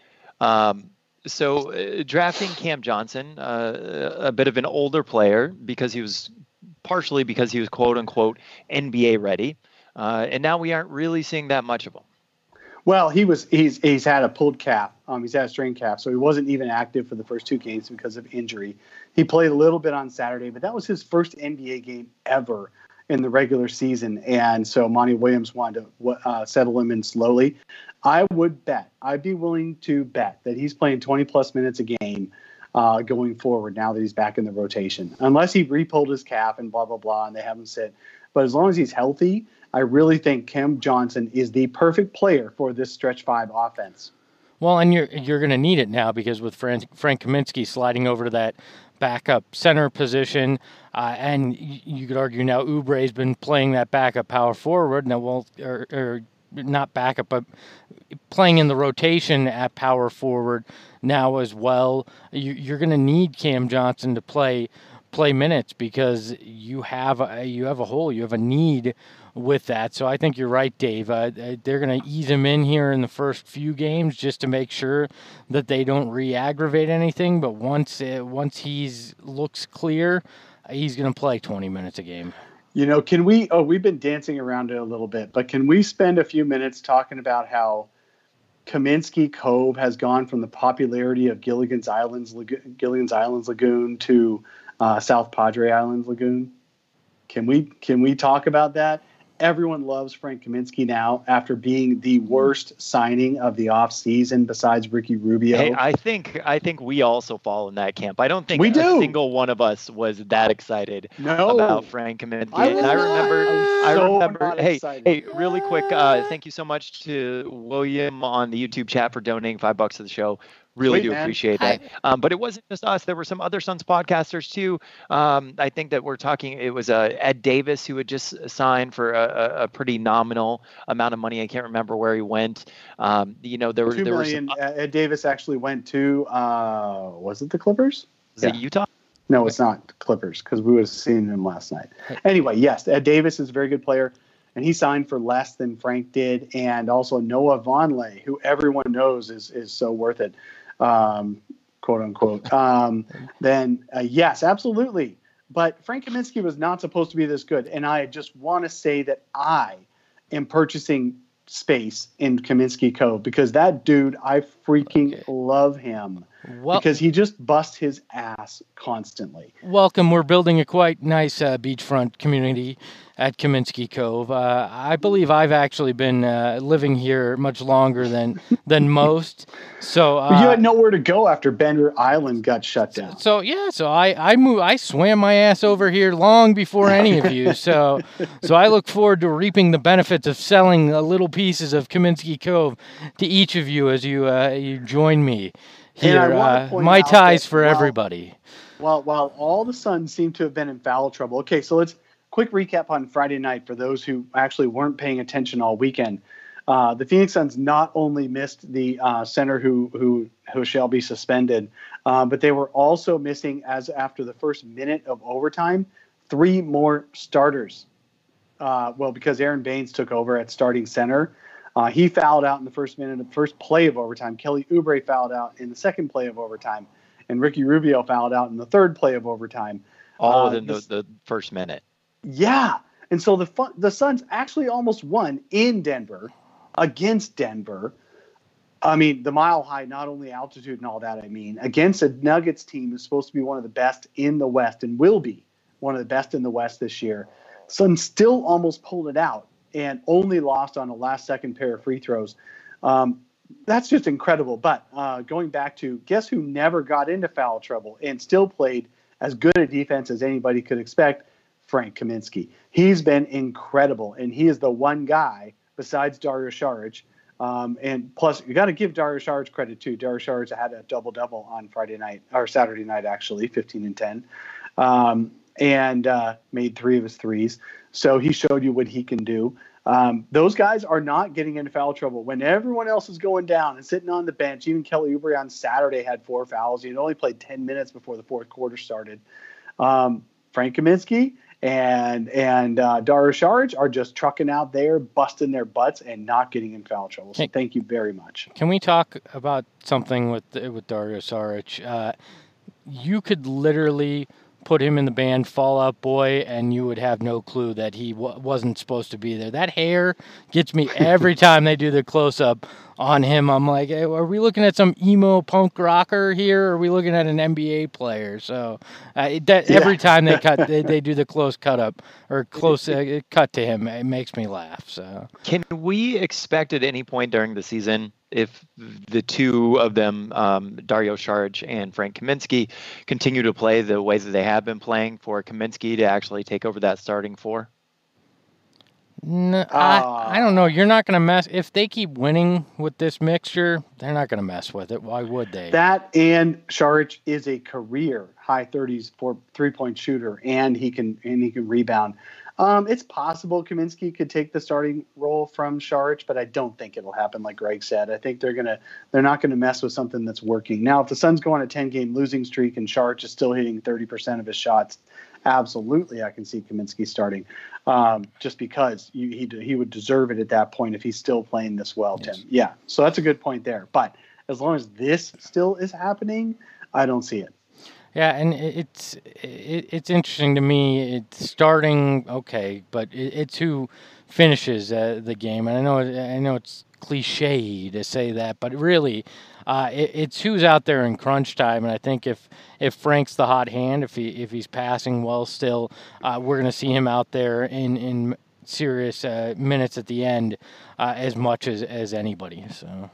Speaker 2: Um, so uh, drafting Cam Johnson, uh, a bit of an older player because he was partially because he was quote unquote N B A ready. Uh, and now we aren't really seeing that much of him.
Speaker 4: Well, he was he's he's had a pulled calf. Um, he's had a strained calf, so he wasn't even active for the first two games because of injury. He played a little bit on Saturday, but that was his first N B A game ever in the regular season, and so Monty Williams wanted to uh, settle him in slowly. I would bet, I'd be willing to bet that he's playing twenty plus minutes a game uh, going forward now that he's back in the rotation, unless he re-pulled his calf and blah blah blah, and they have him sit. But as long as he's healthy, I really think Cam Johnson is the perfect player for this stretch five offense.
Speaker 3: Well, and you're you're going to need it now because with Frank, Frank Kaminsky sliding over to that backup center position, uh, and you, you could argue now Oubre's been playing that backup power forward. Now, well, or, or not backup, but playing in the rotation at power forward now as well. You, you're going to need Cam Johnson to play play minutes because you have a, you have a hole, you have a need with that. So I think you're right, Dave. Uh, they're going to ease him in here in the first few games just to make sure that they don't re-aggravate anything. But once uh, once he's looks clear, he's going to play twenty minutes a game.
Speaker 4: You know, can we? Oh, we've been dancing around it a little bit, but can we spend a few minutes talking about how Kaminsky Cove has gone from the popularity of Gilligan's Islands, Gilligan's Islands Lagoon to uh, South Padre Islands Lagoon? Can we? Can we talk about that? Everyone loves Frank Kaminsky now after being the worst signing of the offseason besides Ricky Rubio.
Speaker 2: Hey, I think I think we also fall in that camp. I don't think
Speaker 4: we
Speaker 2: a
Speaker 4: do.
Speaker 2: single one of us was that excited
Speaker 4: no.
Speaker 2: about Frank Kaminsky.
Speaker 4: I
Speaker 2: and I remember,
Speaker 4: so
Speaker 2: I remember. Hey,
Speaker 4: excited.
Speaker 2: hey, really quick. Uh, thank you so much to William on the YouTube chat for donating five bucks to the show. Really
Speaker 4: Sweet,
Speaker 2: do
Speaker 4: man.
Speaker 2: appreciate that. Um, but it wasn't just us. There were some other Suns podcasters too. Um, I think that we're talking, it was uh, Ed Davis who had just signed for a, a pretty nominal amount of money. I can't remember where he went. Um, you know, there were,
Speaker 4: Two
Speaker 2: there were
Speaker 4: million.
Speaker 2: some,
Speaker 4: uh, Ed Davis actually went to, uh, was it the Clippers?
Speaker 2: was it Utah?
Speaker 4: No, it's not Clippers because we would have seen him last night. Anyway, yes, Ed Davis is a very good player, and he signed for less than Frank did. And also Noah Vonleh, who everyone knows is is so worth it. Um, quote unquote. Um, then uh, yes, absolutely. But Frank Kaminsky was not supposed to be this good. And I just want to say that I am purchasing space in Kaminsky Cove because that dude, I freaking
Speaker 3: Okay.
Speaker 4: love him
Speaker 3: Well,
Speaker 4: because he just busts his ass constantly.
Speaker 3: welcome. We're building a quite nice uh, beachfront community at Kaminsky Cove. Uh, I believe I've actually been uh, living here much longer than than most. So uh,
Speaker 4: But you had nowhere to go after Bender Island got shut down.
Speaker 3: So yeah, so I I move I swam my ass over here long before any of you. So so I look forward to reaping the benefits of selling uh, little pieces of Kaminsky Cove to each of you as you uh, you join me
Speaker 4: And I
Speaker 3: here.
Speaker 4: wanna
Speaker 3: Uh,
Speaker 4: point
Speaker 3: my
Speaker 4: out
Speaker 3: ties
Speaker 4: that
Speaker 3: for
Speaker 4: while-
Speaker 3: everybody.
Speaker 4: While while all the Suns seem to have been in foul trouble. Okay, so let's quick recap on Friday night for those who actually weren't paying attention all weekend. Uh, the Phoenix Suns not only missed the uh, center who who who shall be suspended, uh, but they were also missing, as after the first minute of overtime, three more starters. Uh, well, because Aaron Baines took over at starting center. Uh, he fouled out in the first minute of the first play of overtime. Kelly Oubre fouled out in the second play of overtime. And Ricky Rubio fouled out in the third play of overtime.
Speaker 2: All
Speaker 4: Uh,
Speaker 2: within the,
Speaker 4: this-
Speaker 2: the first minute.
Speaker 4: yeah. And so the fun, the Suns actually almost won in Denver against Denver. I mean, the mile high, not only altitude and all that, I mean, against a Nuggets team who's supposed to be one of the best in the West and will be one of the best in the West this year. Suns still almost pulled it out and only lost on a last second pair of free throws. Um, that's just incredible. But uh, going back to guess who never got into foul trouble and still played as good a defense as anybody could expect? Frank Kaminsky. He's been incredible, and he is the one guy besides Dario Saric. Um, and plus, you got to give Dario Saric credit too. Dario Saric had a double double on Friday night or Saturday night, actually, fifteen and ten, um, and uh, made three of his threes. So he showed you what he can do. Um, those guys are not getting into foul trouble when everyone else is going down and sitting on the bench. Even Kelly Oubre on Saturday had four fouls. He had only played ten minutes before the fourth quarter started. Um, Frank Kaminsky and and uh, Dario Saric are just trucking out there, busting their butts, and not getting in foul trouble. So
Speaker 3: Hey.
Speaker 4: thank you very much.
Speaker 3: Can we talk about something with with Dario Saric? Uh, you could literally put him in the band Fall Out Boy, and you would have no clue that he w- wasn't supposed to be there. That hair gets me every time they do the close-up on him. I'm like, hey, are we looking at some emo punk rocker here, or are we looking at an N B A player? So uh, it, that
Speaker 4: Yeah.
Speaker 3: every time they cut, they, they do the close cut up or close uh, cut to him, it makes me laugh. So
Speaker 2: Can we expect at any point during the season, if the two of them, um, Dario Saric and Frank Kaminsky, continue to play the way that they have been playing, for Kaminsky to actually take over that starting four?
Speaker 3: No,
Speaker 4: Uh,
Speaker 3: I, I don't know. You're not going to mess. If they keep winning with this mixture, they're not going to mess with it. Why would they?
Speaker 4: That and Saric is a career high thirties for three point shooter, and he can and he can rebound. Um, it's possible Kaminsky could take the starting role from Saric, but I don't think it'll happen. Like Greg said, I think they're gonna they're not gonna mess with something that's working. Now, if the Suns go on a ten game losing streak and Saric is still hitting thirty percent of his shots, absolutely, I can see Kaminsky starting. Um, just because you, he he would deserve it at that point if he's still playing this well,
Speaker 3: Yes.
Speaker 4: Tim. Yeah, so that's a good point there. But as long as this still is happening, I don't see it.
Speaker 3: Yeah, and it- it's it, it's interesting to me. It's starting okay, but it, it's who finishes uh, the game. And I know it- I know it's cliche to say that, but really, uh, it, it's who's out there in crunch time. And I think if if Frank's the hot hand, if he if he's passing well still, uh, we're going to see him out there in in serious uh, minutes at the end uh, as much as as anybody. So.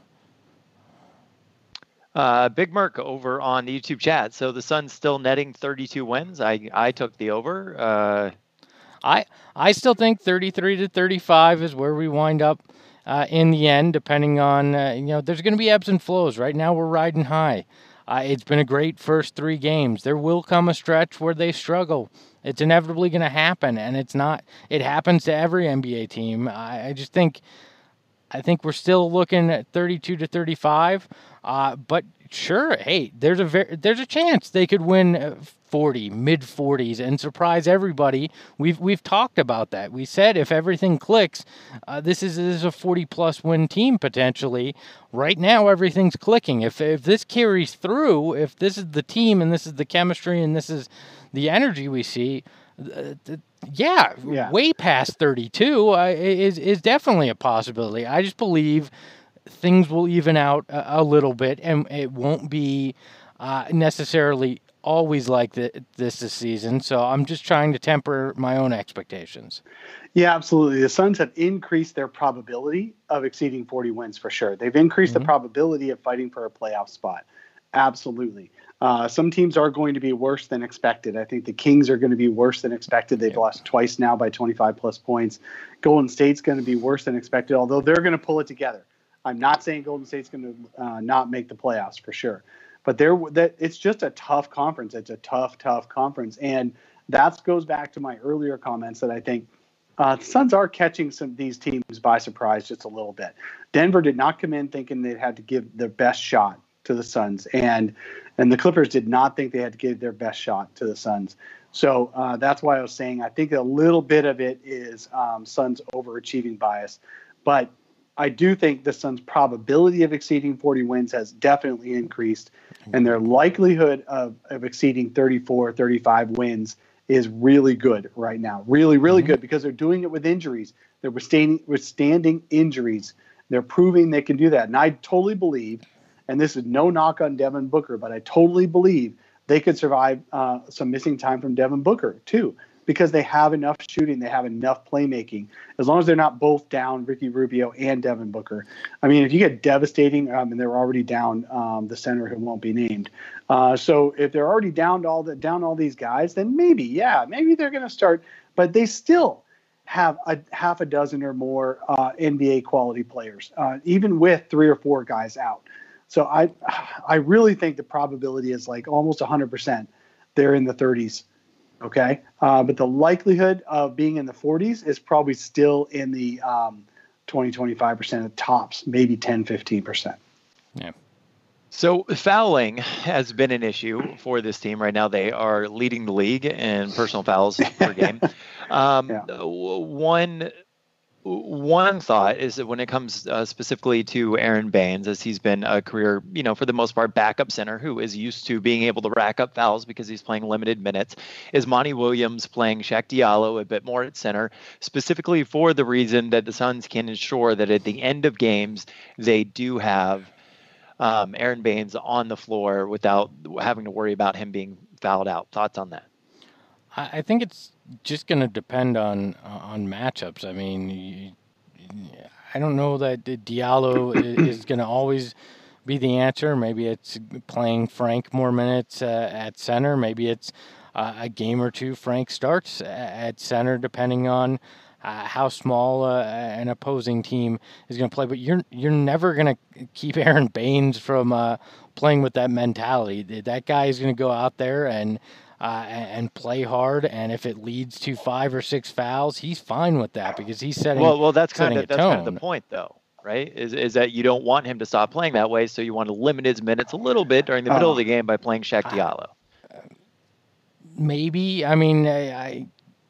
Speaker 2: Uh, Big Merc over on the YouTube chat. So the Suns still netting thirty-two wins. I I took the over. Uh,
Speaker 3: I I still think thirty-three to thirty-five is where we wind up uh, in the end, depending on uh, you know. There's going to be ebbs and flows. Right now, we're riding high. Uh, it's been a great first three games. There will come a stretch where they struggle. It's inevitably going to happen, and it's not. It happens to every N B A team. I, I just think. I think we're still looking at thirty-two to thirty-five, uh, but sure, hey, there's a ver- there's a chance they could win uh, forty, mid forties, and surprise everybody. We've we've talked about that. We said if everything clicks, uh, this is this is a forty plus win team potentially. Right now, everything's clicking. If if this carries through, if this is the team and this is the chemistry and this is the energy we see. Uh, th- yeah,
Speaker 4: Yeah.
Speaker 3: way past thirty-two uh, is is definitely a possibility. I just believe things will even out a, a little bit, and it won't be uh, necessarily always like the, this this season. So I'm just trying to temper my own expectations.
Speaker 4: Yeah, absolutely. The Suns have increased their probability of exceeding forty wins for sure. They've increased
Speaker 3: Mhm.
Speaker 4: the probability of fighting for a playoff spot. Absolutely. Uh, some teams are going to be worse than expected. I think the Kings are going to be worse than expected. They've
Speaker 3: Yep.
Speaker 4: lost twice now by twenty-five plus points. Golden State's going to be worse than expected, although they're going to pull it together. I'm not saying Golden State's going to uh, not make the playoffs for sure, but they're that it's just a tough conference. It's a tough, tough conference, and that goes back to my earlier comments that I think uh, the Suns are catching some these teams by surprise just a little bit. Denver did not come in thinking they had to give their best shot to the Suns, and and the Clippers did not think they had to give their best shot to the Suns. So uh, that's why I was saying I think a little bit of it is um, Suns overachieving bias, but I do think the Suns' probability of exceeding forty wins has definitely increased, and their likelihood of, of exceeding thirty-four, thirty-five wins is really good right now. Really, really mm-hmm. good, because they're doing it with injuries. They're withstanding, withstanding injuries. They're proving they can do that. And I totally believe, and this is no knock on Devin Booker, but I totally believe they could survive uh, some missing time from Devin Booker too, because they have enough shooting, they have enough playmaking. As long as they're not both down, Ricky Rubio and Devin Booker. I mean, if you get devastating, um, and they're already down um, the center who won't be named. Uh, so if they're already down all the down all these guys, then maybe, yeah, maybe they're going to start. But they still have a half a dozen or more uh, N B A quality players, uh, even with three or four guys out. So I, I really think the probability is like almost one hundred percent. They're in the thirties. Okay. Uh, but the likelihood of being in the forties is probably still in the um, twenty, twenty-five percent of tops, maybe ten, fifteen percent.
Speaker 3: Yeah.
Speaker 2: So fouling has been an issue for this team right now. They are leading the league in personal fouls per game. Um, yeah. One One thought is that when it comes uh, specifically to Aaron Baines, as he's been a career, you know, for the most part, backup center who is used to being able to rack up fouls because he's playing limited minutes, is Monty Williams playing Shaq Diallo a bit more at center, specifically for the reason that the Suns can ensure that at the end of games, they do have um, Aaron Baines on the floor without having to worry about him being fouled out. Thoughts on that?
Speaker 3: I think it's just going to depend on on matchups. I mean, you, I don't know that Diallo is going to always be the answer. Maybe it's playing Frank more minutes uh, at center. Maybe it's uh, a game or two Frank starts at center, depending on uh, how small uh, an opposing team is going to play. But you're you're never going to keep Aaron Baines from uh, playing with that mentality. That guy is going to go out there and Uh, and play hard, and if it leads to five or six fouls, he's fine with that because he's setting.
Speaker 2: Well, well, that's kind
Speaker 3: of
Speaker 2: that's kind of the point, though, right? Is is that you don't want him to stop playing that way, so you want to limit his minutes a little bit during the middle uh, of the game by playing Shaq Diallo.
Speaker 3: Uh, maybe. I mean, I, I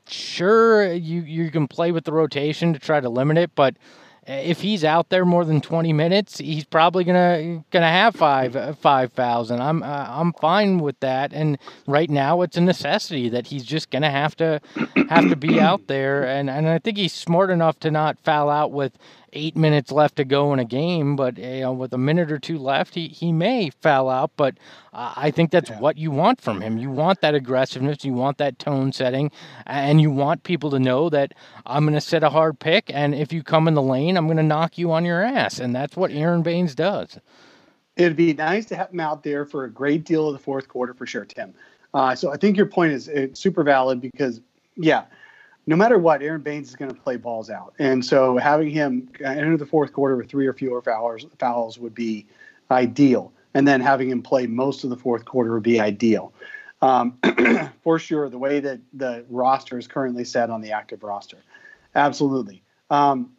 Speaker 3: sure you you can play with the rotation to try to limit it, but if he's out there more than twenty minutes, he's probably gonna gonna have five uh, five fouls, and I'm uh, I'm fine with that. And right now, it's a necessity that he's just gonna have to have to be out there. And, and I think he's smart enough to not foul out with eight minutes left to go in a game. But you know, with a minute or two left, he, he may foul out. But uh, I think that's yeah. what you want from him. You want that aggressiveness. You want that tone setting, and you want people to know that I'm gonna set a hard pick, and if you come in the lane, I'm going to knock you on your ass, and that's what Aaron Baines does.
Speaker 4: It'd be nice to have him out there for a great deal of the fourth quarter for sure, Tim. Uh, so I think your point is it's super valid because, yeah, no matter what, Aaron Baines is going to play balls out. And so having him enter the fourth quarter with three or fewer fouls, fouls would be ideal. And then having him play most of the fourth quarter would be ideal. Um, for sure, the way that the roster is currently set on the active roster. Absolutely. Um,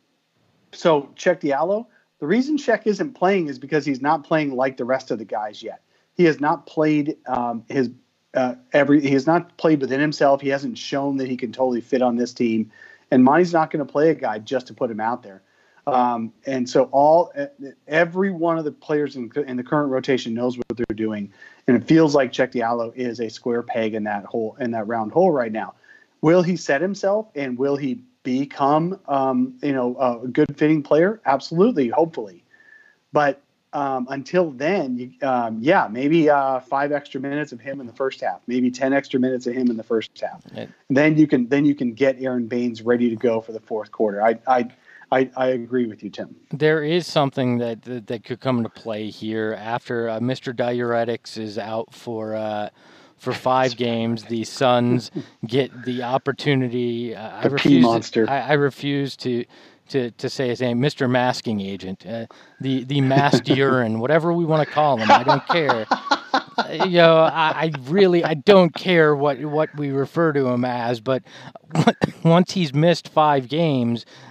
Speaker 4: So Shaq Diallo, the reason Shaq isn't playing is because he's not playing like the rest of the guys yet. He has not played um, his uh, every. He has not played within himself. He hasn't shown that he can totally fit on this team. And Monty's not going to play a guy just to put him out there. Um, and so all every one of the players in, in the current rotation knows what they're doing, and it feels like Shaq Diallo is a square peg in that hole in that round hole right now. Will he set himself, and will he become, um, you know, a good fitting player? Absolutely, hopefully. But um, until then, you, um, yeah, maybe uh, five extra minutes of him in the first half, maybe ten extra minutes of him in the first half. Yeah. Then you can then you can get Aaron Baines ready to go for the fourth quarter. I I I, I agree with you, Tim.
Speaker 3: There is something that that, that could come into play here after uh, Mister Diuretics is out for. Uh, For five games, the Suns get the opportunity. Uh, I refuse.
Speaker 4: monster.
Speaker 3: To, I, I refuse to, to, to say his name, Mister Masking Agent, uh, the the masked urine, whatever we want to call him. I don't care. Uh, you know, I, I really I don't care what what we refer to him as. But once he's missed five games,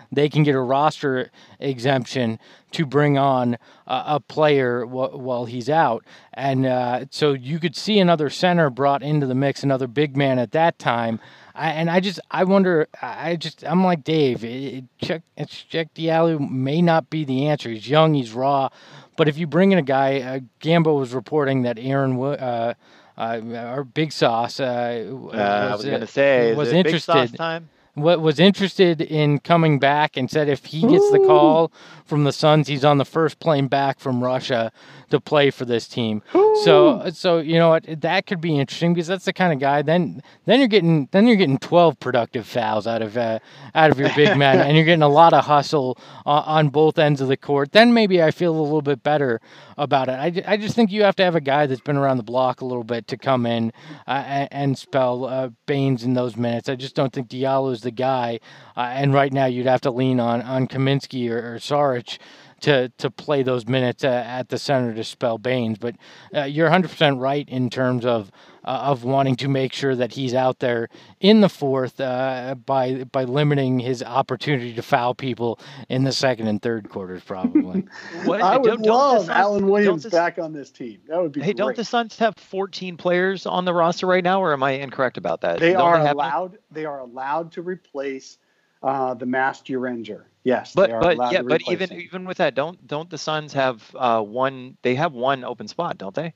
Speaker 3: they can get a roster exemption to bring on uh, a player w- while he's out. And uh, so you could see another center brought into the mix, another big man at that time. I, and I just, I wonder, I just, I'm like Dave, it, Chuck, Cheick Diallo may not be the answer. He's young, he's raw. But if you bring in a guy, uh, Gambo was reporting that Aaron, uh, uh, our Big Sauce, uh, was,
Speaker 2: uh, I was going to say,
Speaker 3: was
Speaker 2: is it
Speaker 3: interested.
Speaker 2: Big Sauce time?
Speaker 3: What was interested in coming back and said if he gets the call from the Suns, he's on the first plane back from Russia to play for this team. So, so you know what, that could be interesting because that's the kind of guy. Then, then you're getting then you're getting twelve productive fouls out of uh, out of your big man, and you're getting a lot of hustle uh, on both ends of the court. Then maybe I feel a little bit better about it. I, I just think you have to have a guy that's been around the block a little bit to come in uh, and, and spell uh, Baines in those minutes. I just don't think Diallo is the guy. Uh, and right now you'd have to lean on on Kaminsky or, or Saric to to play those minutes uh, at the center to spell Baines. But uh, you're one hundred percent right in terms of uh, of wanting to make sure that he's out there in the fourth uh, by by limiting his opportunity to foul people in the second and third quarters, probably.
Speaker 2: What,
Speaker 4: I would
Speaker 2: don't- don't
Speaker 4: love
Speaker 2: the Suns-
Speaker 4: Alan Williams
Speaker 2: don't the-
Speaker 4: back on this team. That would be
Speaker 2: Hey,
Speaker 4: great.
Speaker 2: don't the Suns have fourteen players on the roster right now, or am I incorrect about that?
Speaker 4: They
Speaker 2: Don't
Speaker 4: are
Speaker 2: have-
Speaker 4: allowed. They are allowed to replace uh, the Master Ranger. Yes,
Speaker 2: But
Speaker 4: they are
Speaker 2: but
Speaker 4: allowed
Speaker 2: yeah,
Speaker 4: to
Speaker 2: but
Speaker 4: replace
Speaker 2: even
Speaker 4: him.
Speaker 2: even with that, don't don't the Suns have uh, one? They have one open spot, don't they?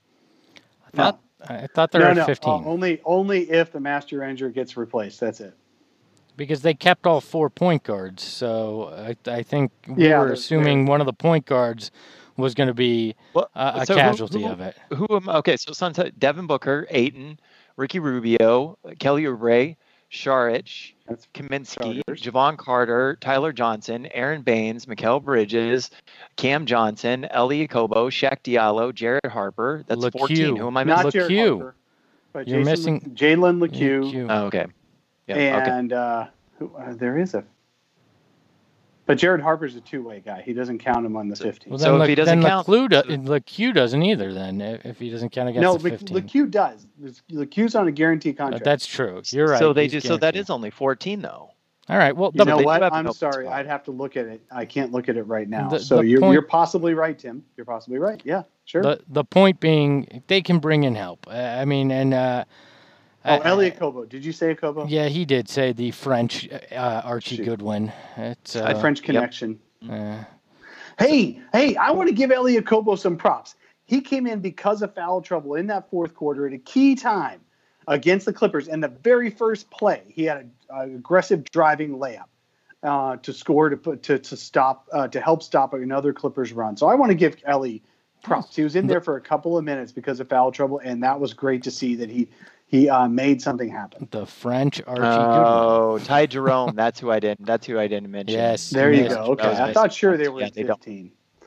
Speaker 3: I thought I thought they were
Speaker 4: no,
Speaker 3: at
Speaker 4: no,
Speaker 3: fifteen
Speaker 4: uh, only only if the Master Ranger gets replaced. That's it.
Speaker 3: because they kept all four point guards. So I, I think we
Speaker 4: Yeah,
Speaker 3: were
Speaker 4: they're-
Speaker 3: assuming one of the point guards was going to be
Speaker 2: Well,
Speaker 3: a, a
Speaker 2: so who-
Speaker 3: casualty
Speaker 2: who-
Speaker 3: of it.
Speaker 2: Who am okay? So Suns have Devin Booker, Ayton, Ricky Rubio, Kelly Oubre, Saric,
Speaker 4: That's
Speaker 2: Kaminsky,
Speaker 4: starters.
Speaker 2: Javon Carter, Tyler Johnson, Aaron Baines, Mikal Bridges, Cam Johnson, Eli Kobo, Shaq Diallo, Jared Harper. That's
Speaker 3: LeCue.
Speaker 2: fourteen. Who am I
Speaker 4: Not
Speaker 2: missing?
Speaker 4: Jared
Speaker 3: LeCue.
Speaker 4: Harper, but
Speaker 3: You're
Speaker 4: Jason
Speaker 3: missing-
Speaker 4: Le- Jalen LeCue,
Speaker 3: Q.
Speaker 2: Oh, okay. Yeah. okay.
Speaker 4: and uh, who, uh, there is a. But Jared Harper's a two-way guy. He doesn't count him on the fifteen.
Speaker 3: Well,
Speaker 2: So
Speaker 3: then
Speaker 2: if he doesn't
Speaker 3: then
Speaker 2: count-
Speaker 3: LeCue, do, LeCue doesn't either. Then if if he doesn't count against
Speaker 4: no,
Speaker 3: the
Speaker 4: Le-
Speaker 3: fifteen,
Speaker 4: LeCue does. LeCue's on a guaranteed
Speaker 3: Uh,
Speaker 4: contract.
Speaker 3: that's true. You're right.
Speaker 2: So they
Speaker 3: he's
Speaker 2: do. So that
Speaker 3: guaranteed.
Speaker 2: is only fourteen, though.
Speaker 3: All right. Well,
Speaker 4: You
Speaker 3: the,
Speaker 4: know
Speaker 2: they do
Speaker 4: what?
Speaker 2: have an
Speaker 4: I'm
Speaker 2: open
Speaker 4: sorry.
Speaker 2: spot.
Speaker 4: I'd have to look at it. I can't look at it right now.
Speaker 3: The-
Speaker 4: so
Speaker 3: the
Speaker 4: you're
Speaker 3: point-
Speaker 4: you're possibly right, Tim. You're possibly right. Yeah, sure.
Speaker 3: the the point being, they can bring in help. Uh, I mean, and uh,
Speaker 4: oh,
Speaker 3: uh,
Speaker 4: Elliot Kobo. Did you say Kobo?
Speaker 3: Yeah, he did say the French uh, Archie
Speaker 4: Shoot.
Speaker 3: Goodwin. It's
Speaker 4: A
Speaker 3: uh,
Speaker 4: French connection.
Speaker 3: uh,
Speaker 4: Hey, hey, I want to give Elliot Kobo some props. He came in because of foul trouble in that fourth quarter at a key time against the Clippers. And the very first play, he had an aggressive driving layup uh, to score to put to to stop uh, to help stop another Clippers run. So I want to give Ellie props. He was in there for a couple of minutes because of foul trouble, and that was great to see that he he uh, made something happen.
Speaker 3: the French Archie
Speaker 2: Oh, Ty Jerome. That's who I didn't. That's who I didn't mention.
Speaker 3: Yes.
Speaker 4: There you
Speaker 3: missed.
Speaker 4: go. Okay,
Speaker 2: That was
Speaker 4: I
Speaker 2: my-
Speaker 4: thought sure they were
Speaker 2: yeah,
Speaker 4: at
Speaker 2: they don't.
Speaker 4: fifteen.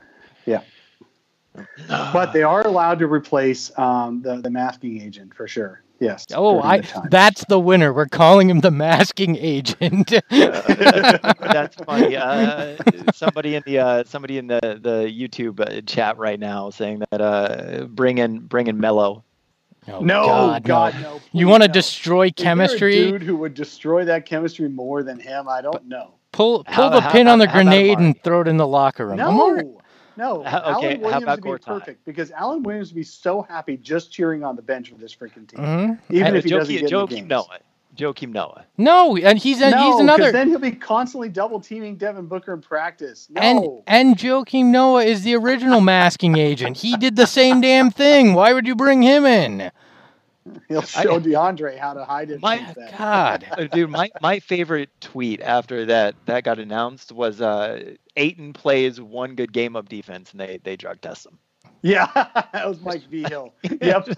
Speaker 4: Yeah. But they are allowed to replace um, the the masking agent for sure. Yes.
Speaker 3: Oh,
Speaker 4: during
Speaker 3: I
Speaker 4: the time.
Speaker 3: that's the winner. We're calling him the masking agent.
Speaker 2: That's funny. Uh, somebody in the uh, somebody in the the YouTube uh, chat right now saying that uh, bring in bring in Mello.
Speaker 3: Oh,
Speaker 4: No,
Speaker 3: God,
Speaker 4: God,
Speaker 3: no.
Speaker 4: no.
Speaker 3: You
Speaker 4: please,
Speaker 3: want to
Speaker 4: no.
Speaker 3: destroy
Speaker 4: Is there a
Speaker 3: chemistry?
Speaker 4: dude who would destroy that chemistry more than him? I don't know.
Speaker 3: Pull pull
Speaker 2: How-
Speaker 3: the
Speaker 2: how
Speaker 3: pin on the
Speaker 2: about- how about
Speaker 3: grenade and
Speaker 2: Amari?
Speaker 3: throw it in the locker room.
Speaker 4: No,
Speaker 3: Amari-
Speaker 4: no.
Speaker 2: How- okay,
Speaker 4: Alan
Speaker 2: how
Speaker 4: Williams
Speaker 2: about
Speaker 4: would be
Speaker 2: Gortat?
Speaker 4: perfect because Alan Williams would be so happy just cheering on the bench for this freaking team,
Speaker 3: Mhm.
Speaker 4: even
Speaker 3: And
Speaker 4: if he doesn't
Speaker 2: Joakim,
Speaker 4: get in the
Speaker 2: Joakim
Speaker 4: games.
Speaker 2: Noah. Joakim Noah.
Speaker 3: No, and he's a,
Speaker 4: No,
Speaker 3: he's
Speaker 4: 'cause
Speaker 3: another.
Speaker 4: then he'll be constantly double teaming Devin Booker in practice. No,
Speaker 3: And and Joakim Noah is the original masking agent. He did the same damn thing. Why would you bring him in?
Speaker 4: he'll show DeAndre how to hide it.
Speaker 2: My-
Speaker 4: against that.
Speaker 3: God.
Speaker 2: Uh, Dude, my, my favorite tweet after that that got announced was uh, Ayton plays one good game of defense and they they drug test him.
Speaker 4: Yeah, that was Mike V. Hill. Yep.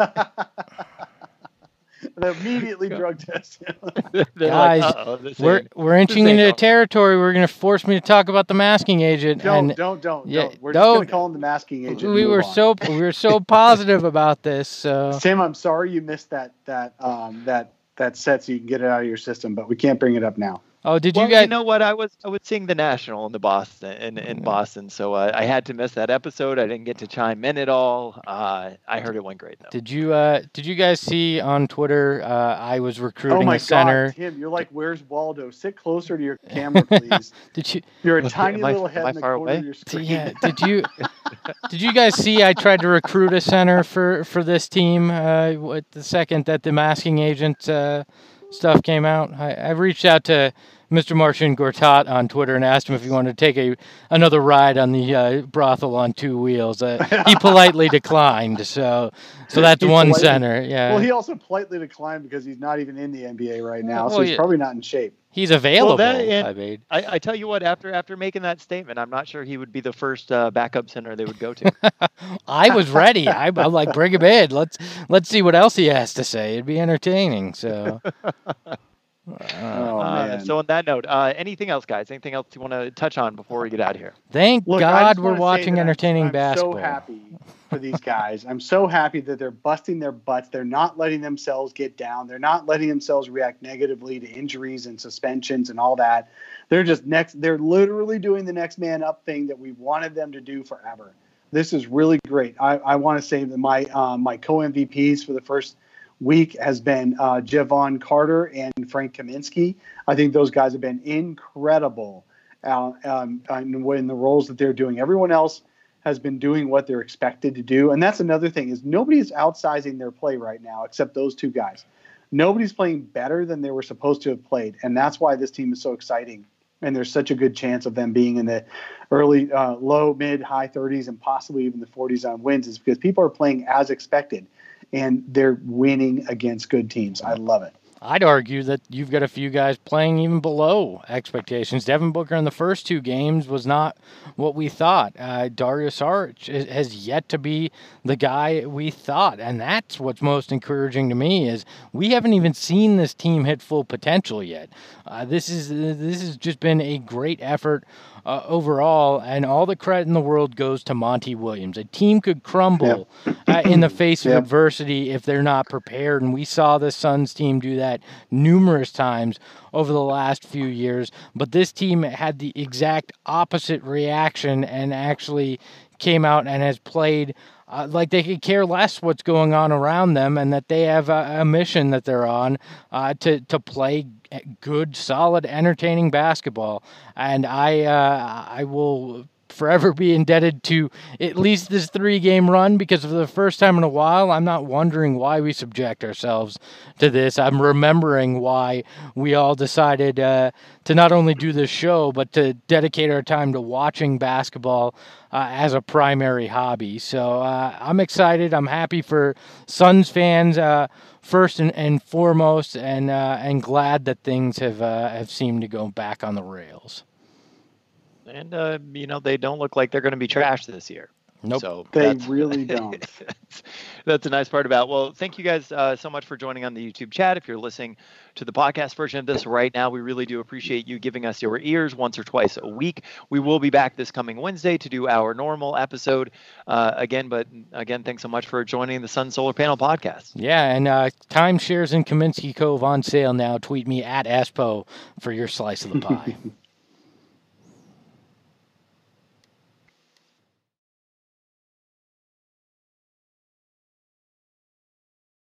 Speaker 4: They immediately drug test him.
Speaker 2: They're
Speaker 3: Guys,
Speaker 2: like, uh-oh, this
Speaker 3: We're
Speaker 2: ain't-
Speaker 3: we're inching
Speaker 2: ain't
Speaker 3: into
Speaker 2: normal.
Speaker 3: territory. We're gonna force me to talk about the masking agent.
Speaker 4: Don't,
Speaker 3: and
Speaker 4: don't, don't,
Speaker 3: yeah,
Speaker 4: don't. We're just
Speaker 3: don't.
Speaker 4: going to call him the masking agent. and
Speaker 3: we
Speaker 4: move
Speaker 3: were
Speaker 4: on.
Speaker 3: so we were so positive about this. So
Speaker 4: Tim, I'm sorry you missed that that um, that that set so you can get it out of your system, but we can't bring it up now.
Speaker 3: Oh, did
Speaker 2: well,
Speaker 3: you guys?
Speaker 2: you know what? I was I was seeing the National in the Boston in, in Boston, so uh, I had to miss that episode. I didn't get to chime in at all. Uh, I heard it went great though.
Speaker 3: Did you uh did you guys see on Twitter? Uh, I was recruiting
Speaker 4: Oh my
Speaker 3: a center.
Speaker 4: God, Tim, you're like, where's Waldo? Sit closer to your camera, please.
Speaker 3: Did you?
Speaker 4: You're a
Speaker 2: Am
Speaker 4: tiny
Speaker 2: I-
Speaker 4: little
Speaker 2: am
Speaker 4: head
Speaker 2: I
Speaker 4: in the
Speaker 2: far
Speaker 4: corner
Speaker 2: away?
Speaker 4: of your screen.
Speaker 3: Yeah. Did you? Did you guys see? I tried to recruit a center for for this team. Uh, with the second that the masking agent uh, stuff came out, I, I reached out to Mister Martian Gortat on Twitter and asked him if he wanted to take a another ride on the uh, brothel on two wheels. Uh, he politely declined. So, so that's
Speaker 4: He
Speaker 3: one
Speaker 4: politely-
Speaker 3: center. Yeah.
Speaker 4: Well, he also politely declined because he's not even in the N B A right now,
Speaker 3: Well,
Speaker 4: so he's
Speaker 3: yeah.
Speaker 4: probably not in shape.
Speaker 3: He's available.
Speaker 2: that and-
Speaker 3: I mean,
Speaker 2: I, I tell you what, after after making that statement, I'm not sure he would be the first uh, backup center they would go to.
Speaker 3: I was ready. I, I'm like, bring him in. Let's let's see what else he has to say. It'd be entertaining. So.
Speaker 4: Oh,
Speaker 2: Uh,
Speaker 4: man.
Speaker 2: so on that note, uh, anything else, guys? Anything else you want to touch on before we get out of here?
Speaker 3: Thank
Speaker 4: Look, I
Speaker 3: God
Speaker 4: just
Speaker 3: we're
Speaker 4: wanna say
Speaker 3: watching
Speaker 4: that I'm-
Speaker 3: entertaining
Speaker 4: I'm
Speaker 3: basketball.
Speaker 4: so happy for these guys. I'm so happy that they're busting their butts. They're not letting themselves get down. They're not letting themselves react negatively to injuries and suspensions and all that. They're just next. They're literally doing the next man up thing that we wanted them to do forever. This is really great. I, I want to say that my uh, my co-M V Ps for the first week has been uh, Javon Carter and Frank Kaminsky. I think those guys have been incredible uh, um, in, in the roles that they're doing. Everyone else has been doing what they're expected to do. And that's another thing is nobody's outsizing their play right now except those two guys. Nobody's playing better than they were supposed to have played. And that's why this team is so exciting. And there's such a good chance of them being in the early, uh, low, mid, high thirties and possibly even the forties on wins is because people are playing as expected. And they're winning against good teams. I love it.
Speaker 3: I'd argue that you've got a few guys playing even below expectations. Devin Booker in the first two games was not what we thought. Uh, Dario Saric has yet to be the guy we thought, and that's what's most encouraging to me is we haven't even seen this team hit full potential yet. Uh, this is this has just been a great effort uh, overall, and all the credit in the world goes to Monty Williams. A team could crumble
Speaker 4: Yep.
Speaker 3: uh, in the face of
Speaker 4: Yep.
Speaker 3: adversity if they're not prepared, and we saw the Suns team do that numerous times over the last few years. But this team had the exact opposite reaction and actually came out and has played uh, like they could care less what's going on around them, and that they have a, a mission that they're on uh, to to play good, solid, entertaining basketball. And I uh, I will forever be indebted to at least this three-game run, because for the first time in a while, I'm not wondering why we subject ourselves to this. I'm remembering why we all decided uh, to not only do this show, but to dedicate our time to watching basketball uh, as a primary hobby. So uh, I'm excited. I'm happy for Suns fans uh, first and, and foremost, and uh, and glad that things have uh, have seemed to go back on the rails.
Speaker 2: And, uh, you know, they don't look like they're going to be trashed this year.
Speaker 3: Nope.
Speaker 2: So
Speaker 4: They
Speaker 2: that's-
Speaker 4: really don't.
Speaker 2: That's a nice part about. Well, thank you guys uh, so much for joining on the YouTube chat. If you're listening to the podcast version of this right now, we really do appreciate you giving us your ears once or twice a week. We will be back this coming Wednesday to do our normal episode uh, again. But again, thanks so much for joining the Sun Solar Panel podcast.
Speaker 3: Yeah, and uh, timeshares in Kaminsky Cove on sale now. Tweet me at Espo for your slice of the pie.